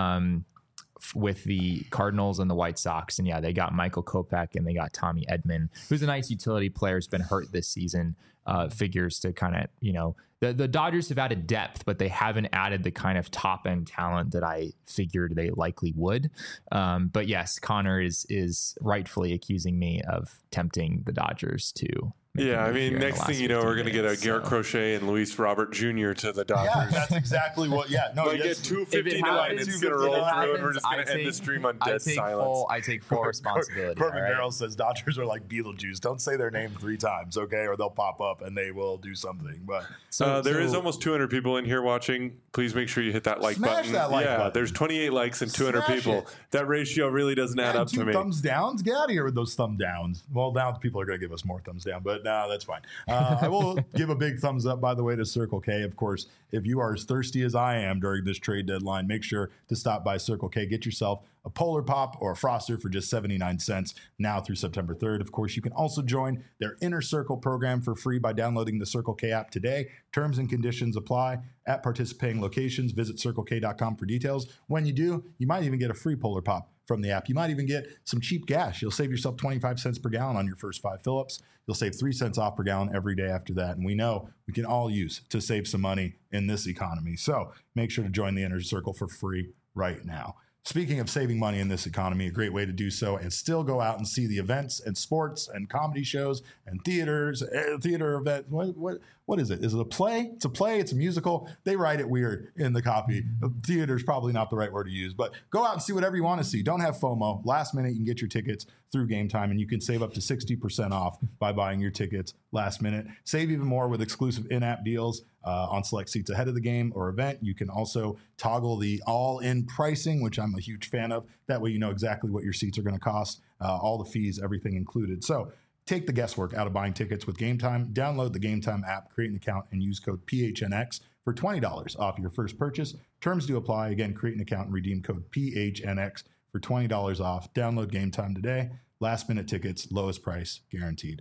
with the Cardinals and the White Sox, and they got Michael Kopech and they got Tommy Edman, who's a nice utility player. Has been hurt this season. Figures to kind of the Dodgers have added depth, but they haven't added the kind of top end talent that I figured they likely would. But yes, Connor is rightfully accusing me of tempting the Dodgers to. Yeah, I mean, next thing you know, we're going to get a Garrett Crochet and Luis Robert Jr. to the Dodgers. Yeah, that's exactly what. Yeah, no, we get 259 and it's going to roll through, and we're just going to end the stream on dead silence. I take full responsibility. Corbin Darrell says Dodgers are like Beetlejuice. Don't say their name 3 times, okay, or they'll pop up and they will do something. But there is almost 200 people in here watching. Please make sure you hit that like button. That like button. There's 28 likes and 200 people. That ratio really doesn't add up to me. Thumbs downs? Get out of here with those thumb downs. Well, now people are going to give us more thumbs down, but no, that's fine. I will give a big thumbs up, by the way, to Circle K. Of course, if you are as thirsty as I am during this trade deadline, make sure to stop by Circle K. Get yourself a Polar Pop or a Froster for just 79 cents now through September 3rd. Of course, you can also join their Inner Circle program for free by downloading the Circle K app today. Terms and conditions apply at participating locations. Visit CircleK.com for details. When you do, you might even get a free Polar Pop from the app. You might even get some cheap gas. You'll save yourself 25 cents per gallon on your first 5 fill-ups. You'll save 3 cents off per gallon every day after that. And we know we can all use to save some money in this economy. So make sure to join the Inner Circle for free right now. Speaking of saving money in this economy, a great way to do so and still go out and see the events and sports and comedy shows and theater events. What is it? Is it a play? It's a play. It's a musical. They write it weird in the copy. Theater is probably not the right word to use, but go out and see whatever you want to see. Don't have FOMO. Last minute, you can get your tickets through Game Time, and you can save up to 60% off by buying your tickets last minute. Save even more with exclusive in-app deals on select seats ahead of the game or event. You can also toggle the all-in pricing, which I'm a huge fan of. That way you know exactly what your seats are going to cost, all the fees, everything included. So take the guesswork out of buying tickets with Game Time. Download the Game Time app, create an account, and use code PHNX for $20 off your first purchase. Terms do apply. Again, create an account and redeem code PHNX for $20 off. Download Game Time today. Last minute tickets, lowest price guaranteed.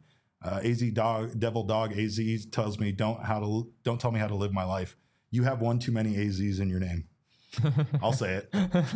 Devil Dog AZ tells me don't tell me how to live my life. You have one too many AZs in your name. I'll say it.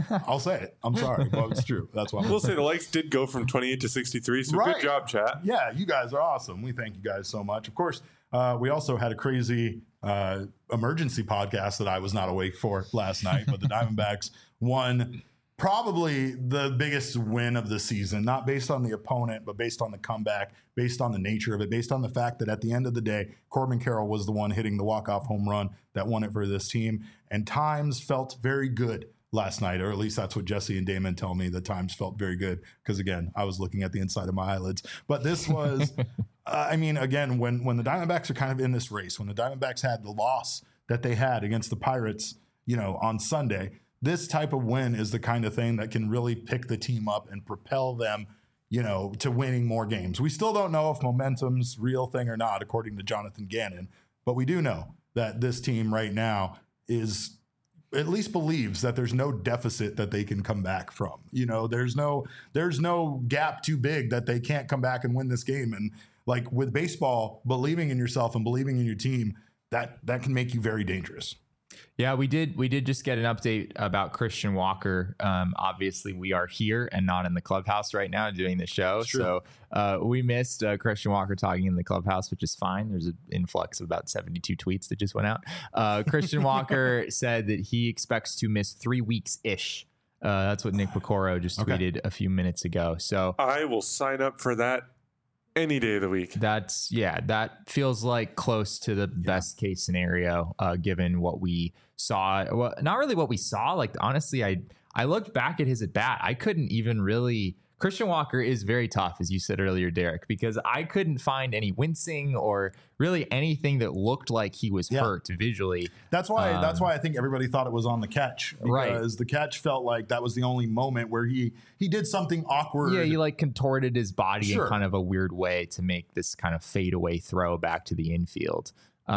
I'm sorry, but it's true. That's why We'll say the likes did go from 28 to 63. So Right. good job, chat. Yeah, you guys are awesome. We thank you guys so much. Of course, we also had a crazy emergency podcast that I was not awake for last night, but the Diamondbacks won probably the biggest win of the season, not based on the opponent, but based on the comeback, based on the nature of it, based on the fact that at the end of the day, Corbin Carroll was the one hitting the walk-off home run that won it for this team. And times felt very good last night, or at least that's what Jesse and Damon tell me. The times felt very good because, again, I was looking at the inside of my eyelids. But this was, I mean, again, when the Diamondbacks are kind of in this race, when the Diamondbacks had the loss that they had against the Pirates, on Sunday, this type of win is the kind of thing that can really pick the team up and propel them, to winning more games. We still don't know if momentum's real thing or not, according to Jonathan Gannon, but we do know that this team right now is at least believes that there's no deficit that they can come back from. There's no gap too big that they can't come back and win this game. And like with baseball, believing in yourself and believing in your team, that can make you very dangerous. Yeah, we did just get an update about Christian Walker. Obviously, we are here and not in the clubhouse right now doing the show. So we missed Christian Walker talking in the clubhouse, which is fine. There's an influx of about 72 tweets that just went out. Christian Walker said that he expects to miss 3 weeks-ish. That's what Nick Picoro just tweeted a few minutes ago. So I will sign up for that any day of the week. That feels like close to the best case scenario, given what we saw. Well, not really what we saw. Like, honestly, I looked back at his at bat. I couldn't even really. Christian Walker is very tough, as you said earlier, Derek, because I couldn't find any wincing or really anything that looked like he was hurt visually. That's why I think everybody thought it was on the catch, because the catch felt like that was the only moment where he did something awkward. Yeah, he like contorted his body in kind of a weird way to make this kind of fadeaway throw back to the infield.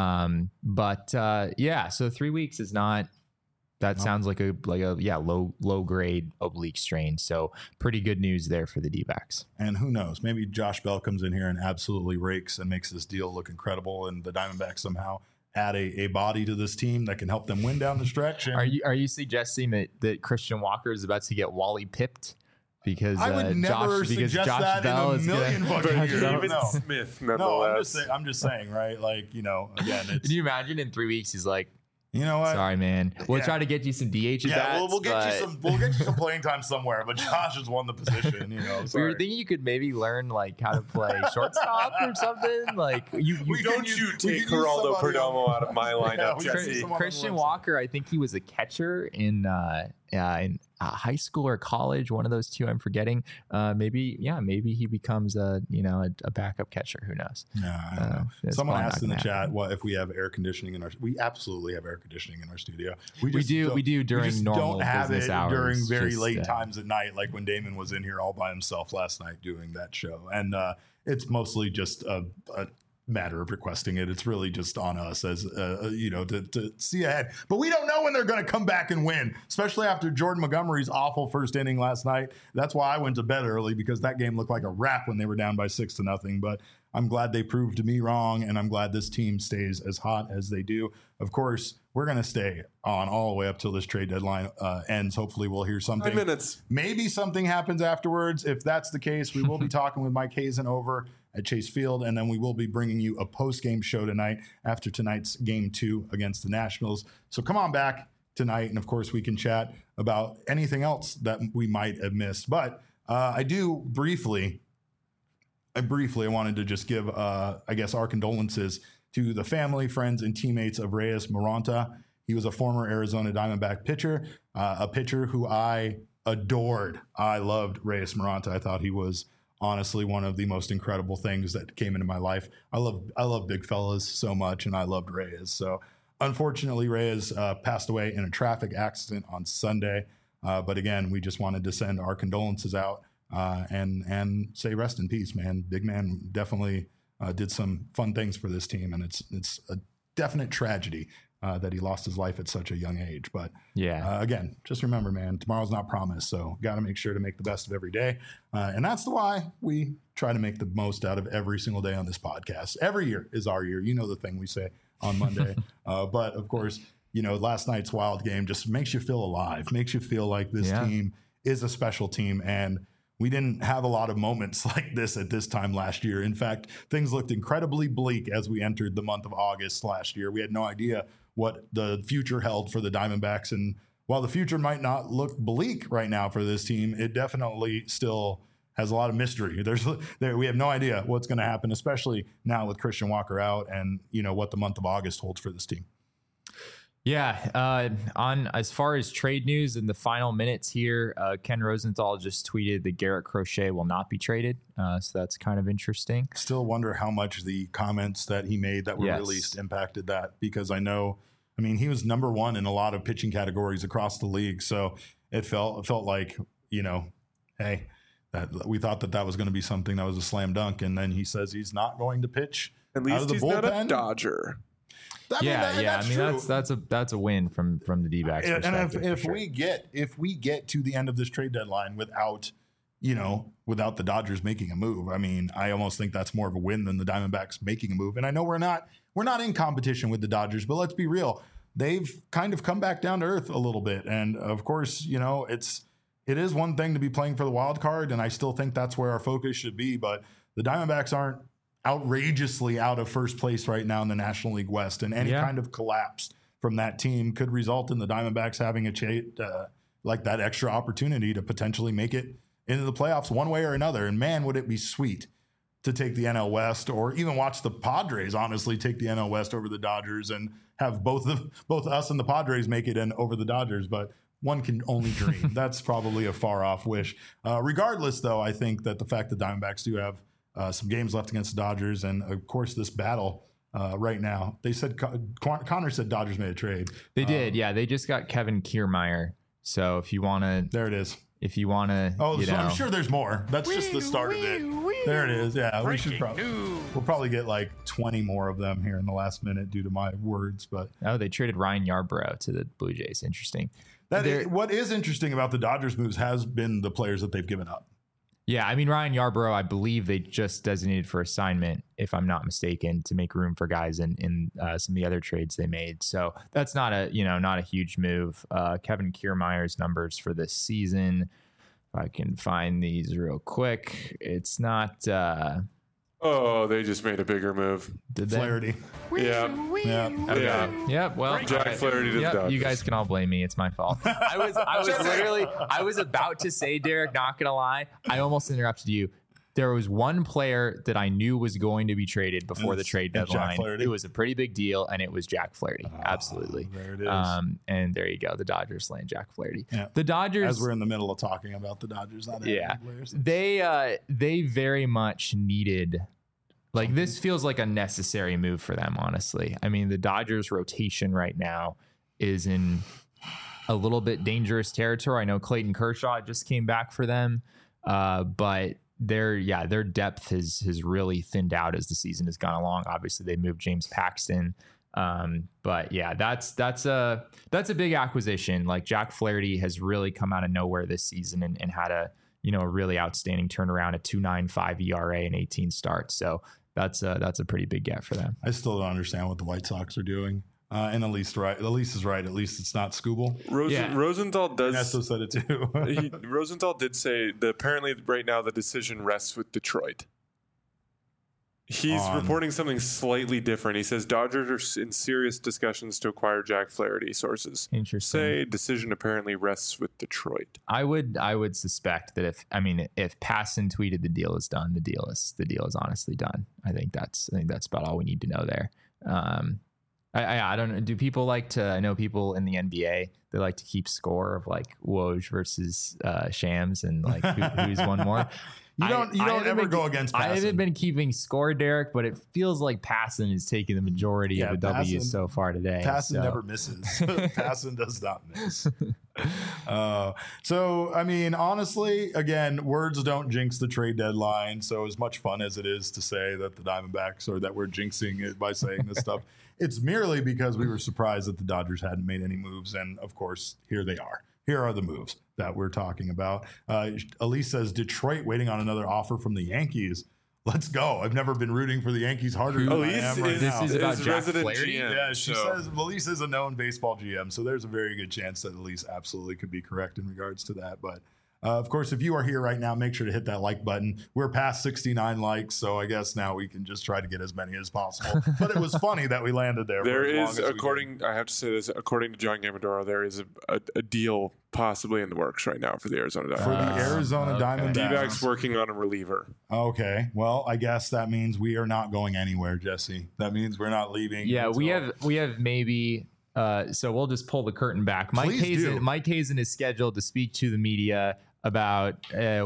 So 3 weeks is not. That sounds like a low grade oblique strain. So pretty good news there for the D-backs. And who knows? Maybe Josh Bell comes in here and absolutely rakes and makes this deal look incredible, and the Diamondbacks somehow add a body to this team that can help them win down the stretch. And are you suggesting that Christian Walker is about to get Wally pipped? Because I would never suggest Josh that Bell in a million fucking years. David Smith, nonetheless. No, I'm just saying, right? Like, again, it's. Can you imagine in 3 weeks he's like, you know what? Sorry, man. We'll try to get you some DH at bats. We'll get you some playing time somewhere. But Josh has won the position. We were thinking you could maybe learn like how to play shortstop or something. Like don't you take Geraldo Perdomo out of my lineup, Jesse. Christian Walker, I think he was a catcher in high school or college, one of those two. I'm forgetting. Maybe he becomes a backup catcher. Who knows? Yeah, I don't know. Someone asked in the chat, "What if we have air conditioning in our?" We absolutely have air conditioning in our studio. We do during normal don't have business it hours during very late times at night, like when Damon was in here all by himself last night doing that show. And it's mostly just a matter of requesting it. It's really just on us as to see ahead. But we don't know when they're going to come back and win, especially after Jordan Montgomery's awful first inning last night. That's why I went to bed early, because that game looked like a wrap when they were down by 6-0. But I'm glad they proved me wrong, and I'm glad this team stays as hot as they do. Of course, we're going to stay on all the way up till this trade deadline ends. Hopefully we'll hear something. 5 minutes. Maybe something happens afterwards. If that's the case, we will be talking with Mike Hazen over at Chase Field, and then we will be bringing you a post-game show tonight after tonight's Game 2 against the Nationals. So come on back tonight, and of course we can chat about anything else that we might have missed. But I wanted to just give, our condolences to the family, friends, and teammates of Reyes Moronta. He was a former Arizona Diamondback pitcher, a pitcher who I adored. I loved Reyes Moronta. I thought he was honestly one of the most incredible things that came into my life. I love big fellas so much, and I loved Reyes. So unfortunately, Reyes passed away in a traffic accident on Sunday. But again, we just wanted to send our condolences out and say rest in peace, man. Big man definitely did some fun things for this team, and it's a definite tragedy that he lost his life at such a young age. But again, just remember, man, tomorrow's not promised, so got to make sure to make the best of every day. And that's why we try to make the most out of every single day on this podcast. Every year is our year. You know the thing we say on Monday. But of course, last night's Wild game just makes you feel alive, makes you feel like this team is a special team. And we didn't have a lot of moments like this at this time last year. In fact, things looked incredibly bleak as we entered the month of August last year. We had no idea what the future held for the Diamondbacks. And while the future might not look bleak right now for this team, it definitely still has a lot of mystery. We have no idea what's going to happen, especially now with Christian Walker out and, what the month of August holds for this team. Yeah. On as far as trade news in the final minutes here, Ken Rosenthal just tweeted that Garrett Crochet will not be traded. So that's kind of interesting. Still wonder how much the comments that he made that were released impacted that, because he was number one in a lot of pitching categories across the league. So it felt like, hey, that we thought that was going to be something that was a slam dunk. And then he says he's not going to pitch. At least he's not a Dodger. That's a win from the D-backs. And if we get to the end of this trade deadline without the Dodgers making a move, I almost think that's more of a win than the Diamondbacks making a move. And I know we're not in competition with the Dodgers, but let's be real. They've kind of come back down to earth a little bit. And of course, it is one thing to be playing for the wild card, and I still think that's where our focus should be. But the Diamondbacks aren't outrageously out of first place right now in the National League West, and any kind of collapse from that team could result in the Diamondbacks having that extra opportunity to potentially make it into the playoffs one way or another. And man, would it be sweet to take the NL West, or even watch the Padres honestly take the NL West over the Dodgers and have both us and the Padres make it in over the Dodgers. But one can only dream. That's probably a far off wish. Regardless, though, I think that the fact that Diamondbacks do have some games left against the Dodgers, and of course this battle right now. They said Connor said Dodgers made a trade. They did, yeah. They just got Kevin Kiermaier. So if you want to, there it is. If you want to, I'm sure there's more. That's just the start of it. There it is. Yeah, we'll probably get like 20 more of them here in the last minute due to my words. But they traded Ryan Yarbrough to the Blue Jays. Interesting. What is interesting about the Dodgers moves has been the players that they've given up. Yeah, Ryan Yarbrough, I believe they just designated for assignment, if I'm not mistaken, to make room for guys in some of the other trades they made. So that's not a huge move. Kevin Kiermaier's numbers for this season, if I can find these real quick, it's not. They just made a bigger move. Did Flaherty? Yeah. Yeah. Well, Jack Flaherty to the Dodgers. You guys can all blame me. It's my fault. I was about to say, Derek, not gonna lie, I almost interrupted you. There was one player that I knew was going to be traded before the trade deadline. It was a pretty big deal, and it was Jack Flaherty. Absolutely. There it is. And there you go. The Dodgers land Jack Flaherty. Yeah. The Dodgers, as we're in the middle of talking about the Dodgers, not players. They very much needed. Like, this feels like a necessary move for them, honestly. The Dodgers rotation right now is in a little bit dangerous territory. I know Clayton Kershaw just came back for them, but their depth has really thinned out as the season has gone along. Obviously, they moved James Paxton, but yeah, that's a big acquisition. Like, Jack Flaherty has really come out of nowhere this season and had a really outstanding turnaround, a 2.95 ERA and 18 starts. So that's a pretty big get for them. I still don't understand what the White Sox are doing. And at least is right. At least it's not Skubal. Rosenthal does. Nesto said it too. Rosenthal did say that apparently right now the decision rests with Detroit. He's reporting something slightly different. He says Dodgers are in serious discussions to acquire Jack Flaherty. Sources say decision apparently rests with Detroit. I would suspect that if Passan tweeted the deal is done, the deal is honestly done. I think that's about all we need to know there. I don't know. Do people like to? I know people in the NBA, they like to keep score of like Woj versus Shams and like who's won more. You don't ever go against Passan. I haven't been keeping score, Derek, but it feels like Passan is taking the majority of the W's so far today. Passan never misses. Passan does not miss. Honestly, again, words don't jinx the trade deadline. So as much fun as it is to say that the Diamondbacks or that we're jinxing it by saying this stuff, it's merely because we were surprised that the Dodgers hadn't made any moves. And of course, here they are. Here are the moves that we're talking about. Elise says Detroit waiting on another offer from the Yankees. let's go. I've never been rooting for the Yankees harder than I am right now. This is about Jack resident Flaherty. GM. Yeah, she says Elise is a known baseball GM, so there's a very good chance that Elise absolutely could be correct in regards to that. But of course, if you are here right now, make sure to hit that like button. We're past 69 likes, so I guess now we can just try to get as many as possible. But it was funny that we landed there. There is, I have to say this, according to John Gambadoro, there is a deal possibly in the works right now for the Arizona Diamondbacks. For the Arizona Diamondbacks. D-backs working on a reliever. Okay, well, I guess that means we are not going anywhere, Jesse. That means we're not leaving. Yeah, we have maybe. So we'll just pull the curtain back. Mike Hazen is scheduled to speak to the media about a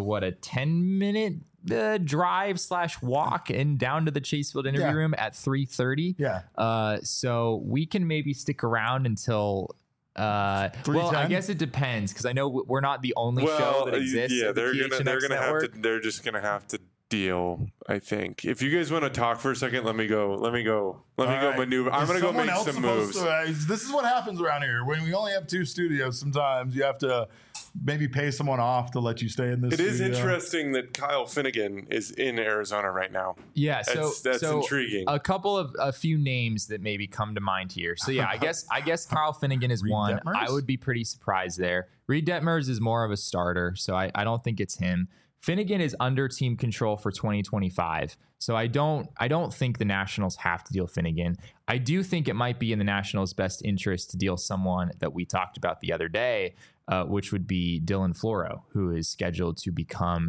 10-minute drive / walk and down to the Chase Field interview room at 3:30. Yeah. So we can maybe stick around until. Well, I guess it depends because I know we're not the only show that exists. Yeah, at the they're just gonna have to deal. I think if you guys want to talk for a second, let me go maneuver. I'm gonna go make some moves. This is what happens around here when we only have 2 studios. Sometimes you have to maybe pay someone off to let you stay in this. It is interesting that Kyle Finnegan is in Arizona right now. Yeah, that's intriguing. A few names that maybe come to mind here. So yeah, I guess Kyle Finnegan is one. Detmers? I would be pretty surprised there. Reed Detmers is more of a starter, so I don't think it's him. Finnegan is under team control for 2025. So I don't think the Nationals have to deal Finnegan. I do think it might be in the Nationals' best interest to deal someone that we talked about the other day, which would be Dylan Floro, who is scheduled to become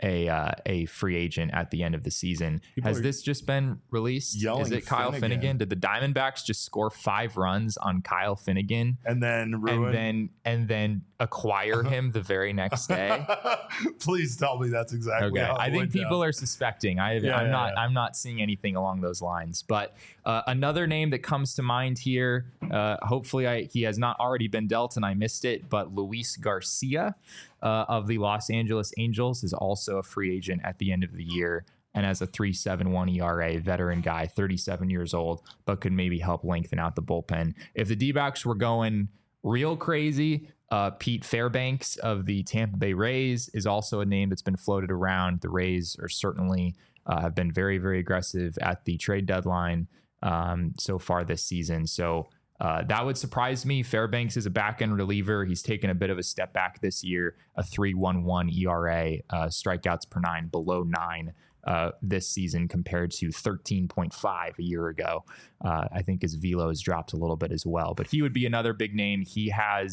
a free agent at the end of the season. Has this just been released? Is it Kyle Finnegan? Did the Diamondbacks just score 5 runs on Kyle Finnegan and then ruin and then acquire him the very next day? Please tell me that's exactly how I think people are suspecting. I'm not seeing anything along those lines. But another name that comes to mind here, hopefully he has not already been dealt and I missed it, but Luis Garcia of the Los Angeles Angels is also a free agent at the end of the year and has a 3.71 ERA, veteran guy, 37 years old, but could maybe help lengthen out the bullpen. If the D-backs were going real crazy, Pete Fairbanks of the Tampa Bay Rays is also a name that's been floated around. The Rays are certainly have been very, very aggressive at the trade deadline so far this season. So that would surprise me. Fairbanks is a back-end reliever. He's taken a bit of a step back this year, a 3.11 ERA, strikeouts per 9 below 9 this season compared to 13.5 a year ago. I think his velo has dropped a little bit as well, but he would be another big name. He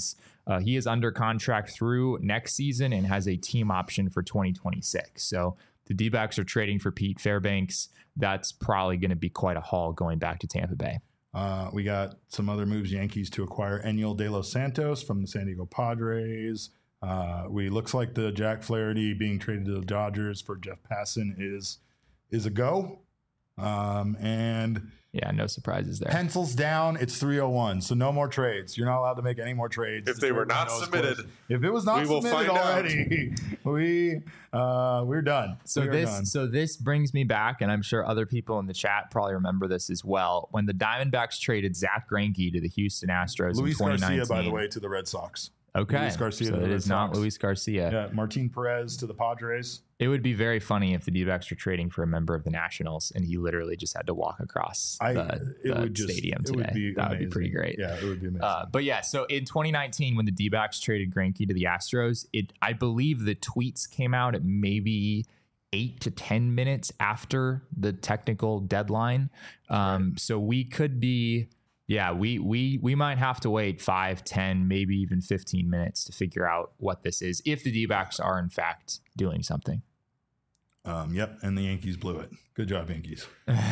is under contract through next season and has a team option for 2026. So the D-backs are trading for Pete Fairbanks. That's probably going to be quite a haul going back to Tampa Bay. We got some other moves. Yankees to acquire Enyel De Los Santos from the San Diego Padres. Looks like the Jack Flaherty being traded to the Dodgers for Jeff Passan is a go. And yeah, no surprises there. Pencils down. It's 3:01, so no more trades. You're not allowed to make any more trades. If they were not submitted, if it was not submitted already, we're done. So this brings me back, and I'm sure other people in the chat probably remember this as well. When the Diamondbacks traded Zach Greinke to the Houston Astros Luis in 2019, Garcia, by the way, to the Red Sox. Okay, Luis Garcia. So it is not Luis Garcia. Yeah, Martin Perez to the Padres. It would be very funny if the D-backs were trading for a member of the Nationals and he literally just had to walk across the stadium today. That would be pretty great. Yeah, it would be amazing. But yeah, so in 2019, when the D-backs traded Greinke to the Astros, I believe the tweets came out at maybe 8 to 10 minutes after the technical deadline. Right. So we could be... Yeah, we might have to wait 5, 10, maybe even 15 minutes to figure out what this is, if the D-backs are in fact doing something. Yep, and the Yankees blew it. Good job, Yankees.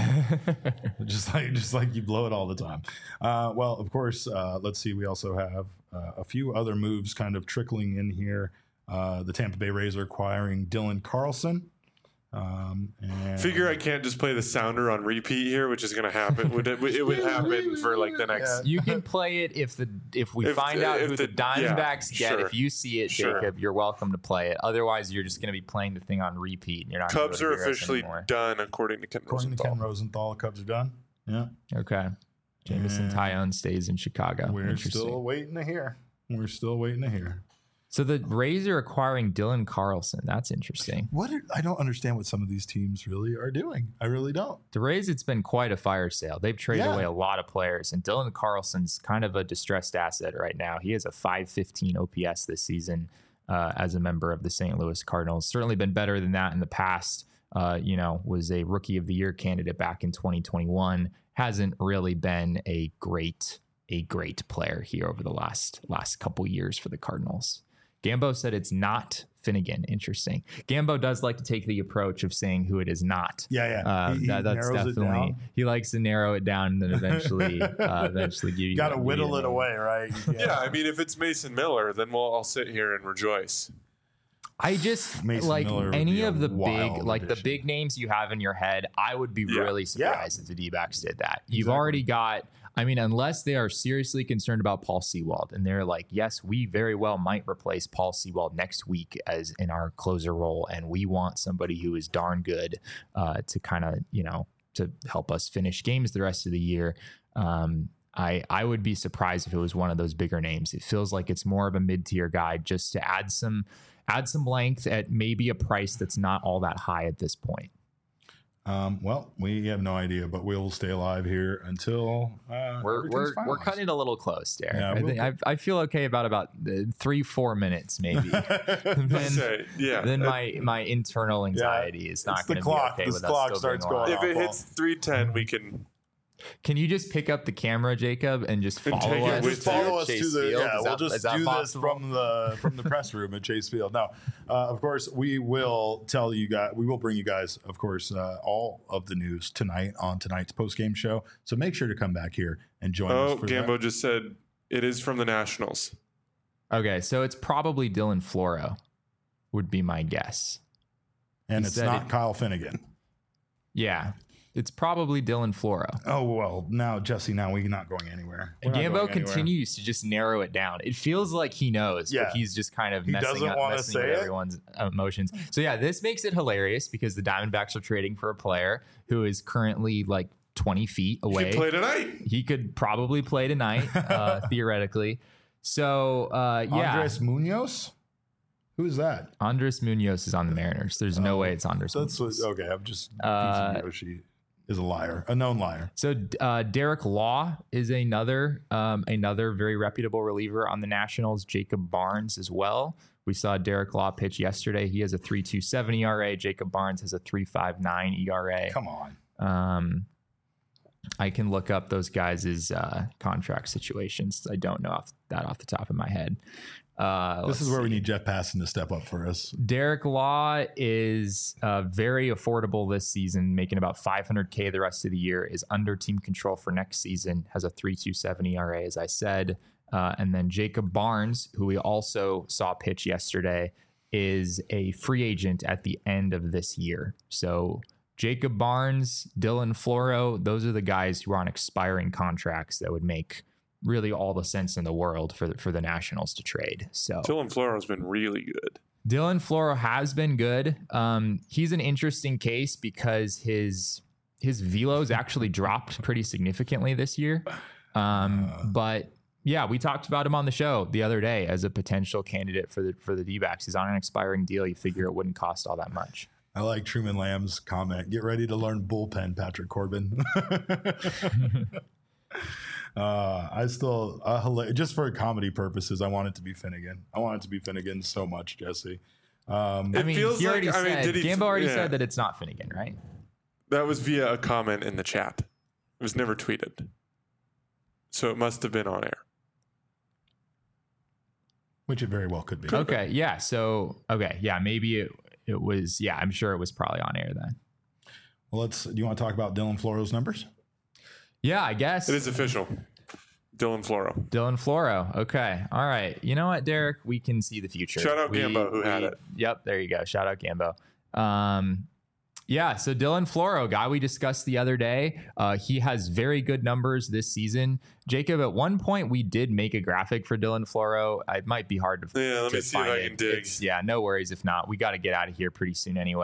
just like you blow it all the time. Well, of course, let's see. We also have a few other moves kind of trickling in here. The Tampa Bay Rays are acquiring Dylan Carlson. And figure I can't just play the sounder on repeat here, which is going to happen. It would happen for like the next. You can play it if we find out who the Diamondbacks get. Sure. If you see it, Jacob, you're welcome to play it. Otherwise, you're just going to be playing the thing on repeat. And you're not. Cubs are officially done, according to Ken Rosenthal. Cubs are done. Yeah. Okay. Jameson Tyone stays in Chicago. We're still waiting to hear. So the Rays are acquiring Dylan Carlson. That's interesting. I don't understand what some of these teams really are doing. I really don't. The Rays, it's been quite a fire sale. They've traded away a lot of players, and Dylan Carlson's kind of a distressed asset right now. He has a .515 OPS this season as a member of the St. Louis Cardinals. Certainly been better than that in the past. Was a Rookie of the Year candidate back in 2021. Hasn't really been a great player here over the last couple years for the Cardinals. Gambo said it's not Finnegan. Interesting. Gambo does like to take the approach of saying who it is not. Yeah. That's definitely, he likes to narrow it down and then eventually give you. Got to whittle it away, right? Yeah. I mean, if it's Mason Miller, then we'll all sit here and rejoice. I just Mason like Miller any of the big names you have in your head. I would be really surprised if the D-backs did that. You've already got. I mean, unless they are seriously concerned about Paul Sewald and they're like, yes, we very well might replace Paul Sewald next week as in our closer role. And we want somebody who is darn good to kind of, to help us finish games the rest of the year. I would be surprised if it was one of those bigger names. It feels like it's more of a mid-tier guy just to add some length at maybe a price that's not all that high at this point. Well, we have no idea, but we'll stay alive here until we're cutting it a little close, Derek. Yeah, I feel okay about 3-4 minutes maybe. Then my internal anxiety is not going to be okay with us still starts going. If it hits 3:10, we can. Can you just pick up the camera, Jacob, and just follow us? Just follow us to the. Yeah, we'll just do possible? this from the press room at Chase Field. Now, of course, we will tell you guys. We will bring you guys, of course, all of the news tonight on tonight's postgame show. So make sure to come back here and join us. For Gambo just said it is from the Nationals. Okay, so it's probably Dylan Floro, would be my guess. And it's not Kyle Finnegan. Yeah. It's probably Dylan Floro. Oh, well, now, Jesse, we're not going anywhere. Gambo continues to just narrow it down. It feels like he knows, but he's just kind of messing with everyone's emotions. So, this makes it hilarious because the Diamondbacks are trading for a player who is currently like 20 feet away. He could play tonight. He could probably play tonight, theoretically. So, Andres Munoz? Who's that? Andres Munoz is on the Mariners. There's no way it's Andres Munoz. Okay, I'm just Yoshi is a liar, a known liar. So Derek Law is another very reputable reliever on the Nationals. Jacob Barnes as well. We saw Derek Law pitch yesterday. He has a 3.27 ERA. Jacob Barnes has a 3.59 ERA. Come on. I can look up those guys' contract situations. I don't know off the top of my head. This is where we need Jeff Passan to step up for us. Derek Law is very affordable this season, making about $500K the rest of the year, is under team control for next season, has a 3.27 ERA, as I said. And then Jacob Barnes, who we also saw pitch yesterday, is a free agent at the end of this year. So Jacob Barnes, Dylan Floro, those are the guys who are on expiring contracts that would make really all the sense in the world for the Nationals to trade. So Dylan Floro has been really good. Dylan Floro has been good. He's an interesting case because his velo's actually dropped pretty significantly this year. But yeah, we talked about him on the show the other day as a potential candidate for the D-backs. He's on an expiring deal. You figure it wouldn't cost all that much. I like Truman Lamb's comment. Get ready to learn bullpen, Patrick Corbin. I still just for comedy purposes, I want it to be Finnegan. I want it to be Finnegan so much, Jesse. Gambo already said that it's not Finnegan, right? That was via a comment in the chat. It was never tweeted, so it must have been on air, which it very well could be. Okay, yeah. So maybe it was. Yeah, I'm sure it was probably on air then. Well, do you want to talk about Dylan Floro's numbers? Yeah, I guess. It is official. Dylan Floro. Okay. All right. You know what, Derek? We can see the future. Shout out Gambo who had it. Yep. There you go. Shout out Gambo. So Dylan Floro, guy we discussed the other day, he has very good numbers this season. Jacob, at one point we did make a graphic for Dylan Floro. It might be hard to let me see if I can dig. No worries. If not, we got to get out of here pretty soon anyway.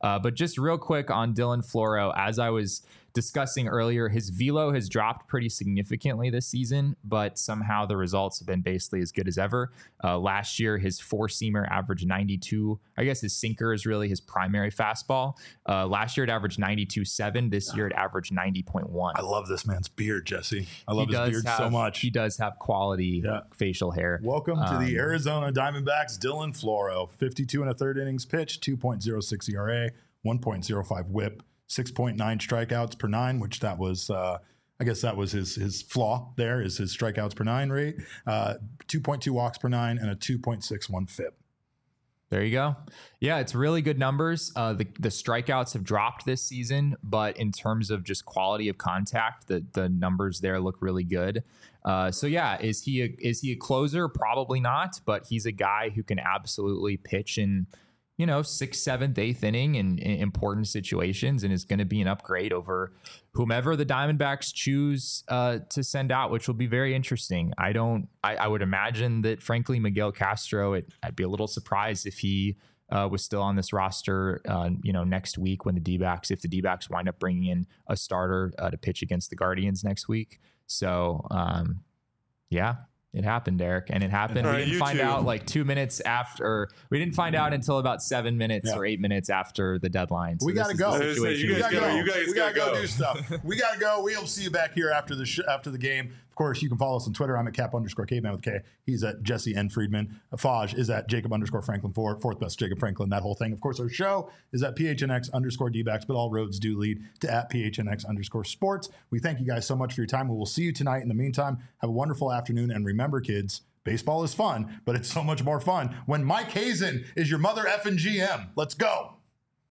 But just real quick on Dylan Floro, as I was discussing earlier, his velo has dropped pretty significantly this season, but somehow the results have been basically as good as ever. Last year, his four-seamer averaged 92. I guess his sinker is really his primary fastball. Last year, it averaged 92.7. This year, it averaged 90.1. I love this man's beard, Jesse. I love his beard so much. He does have quality facial hair. Welcome to the Arizona Diamondbacks, Dylan Floro. 52 and a third innings pitched, 2.06 ERA, 1.05 whip, 6.9 strikeouts per nine, which that was, I guess that was his flaw there, is his strikeouts per nine rate, 2.2 walks per nine, and a 2.61 FIP. There you go. Yeah, it's really good numbers. The strikeouts have dropped this season, but in terms of just quality of contact, the numbers there look really good. So yeah, is he a closer? Probably not, but he's a guy who can absolutely pitch in, 6th, 7th, 8th inning in important situations, and is going to be an upgrade over whomever the Diamondbacks choose to send out, which will be very interesting. I would imagine that, frankly, Miguel Castro, I'd be a little surprised if he was still on this roster, next week when if the D-backs wind up bringing in a starter to pitch against the Guardians next week. So, yeah. It happened, Derek, and it happened. We didn't find out like 2 minutes after. We didn't find out until about 7 minutes or 8 minutes after the deadline. So we gotta go. You guys gotta go do stuff. We gotta go. We'll see you back here after the game. Of course, you can follow us on Twitter. I'm at Cap_Caveman with K. He's at Jesse N. Friedman. Faj is at Jacob_Franklin4. Fourth best Jacob Franklin, that whole thing. Of course, our show is at PHNX_D-backs, but all roads do lead to at PHNX_sports. We thank you guys so much for your time. We will see you tonight. In the meantime, have a wonderful afternoon. And remember, kids, baseball is fun, but it's so much more fun when Mike Hazen is your mother effing GM. Let's go.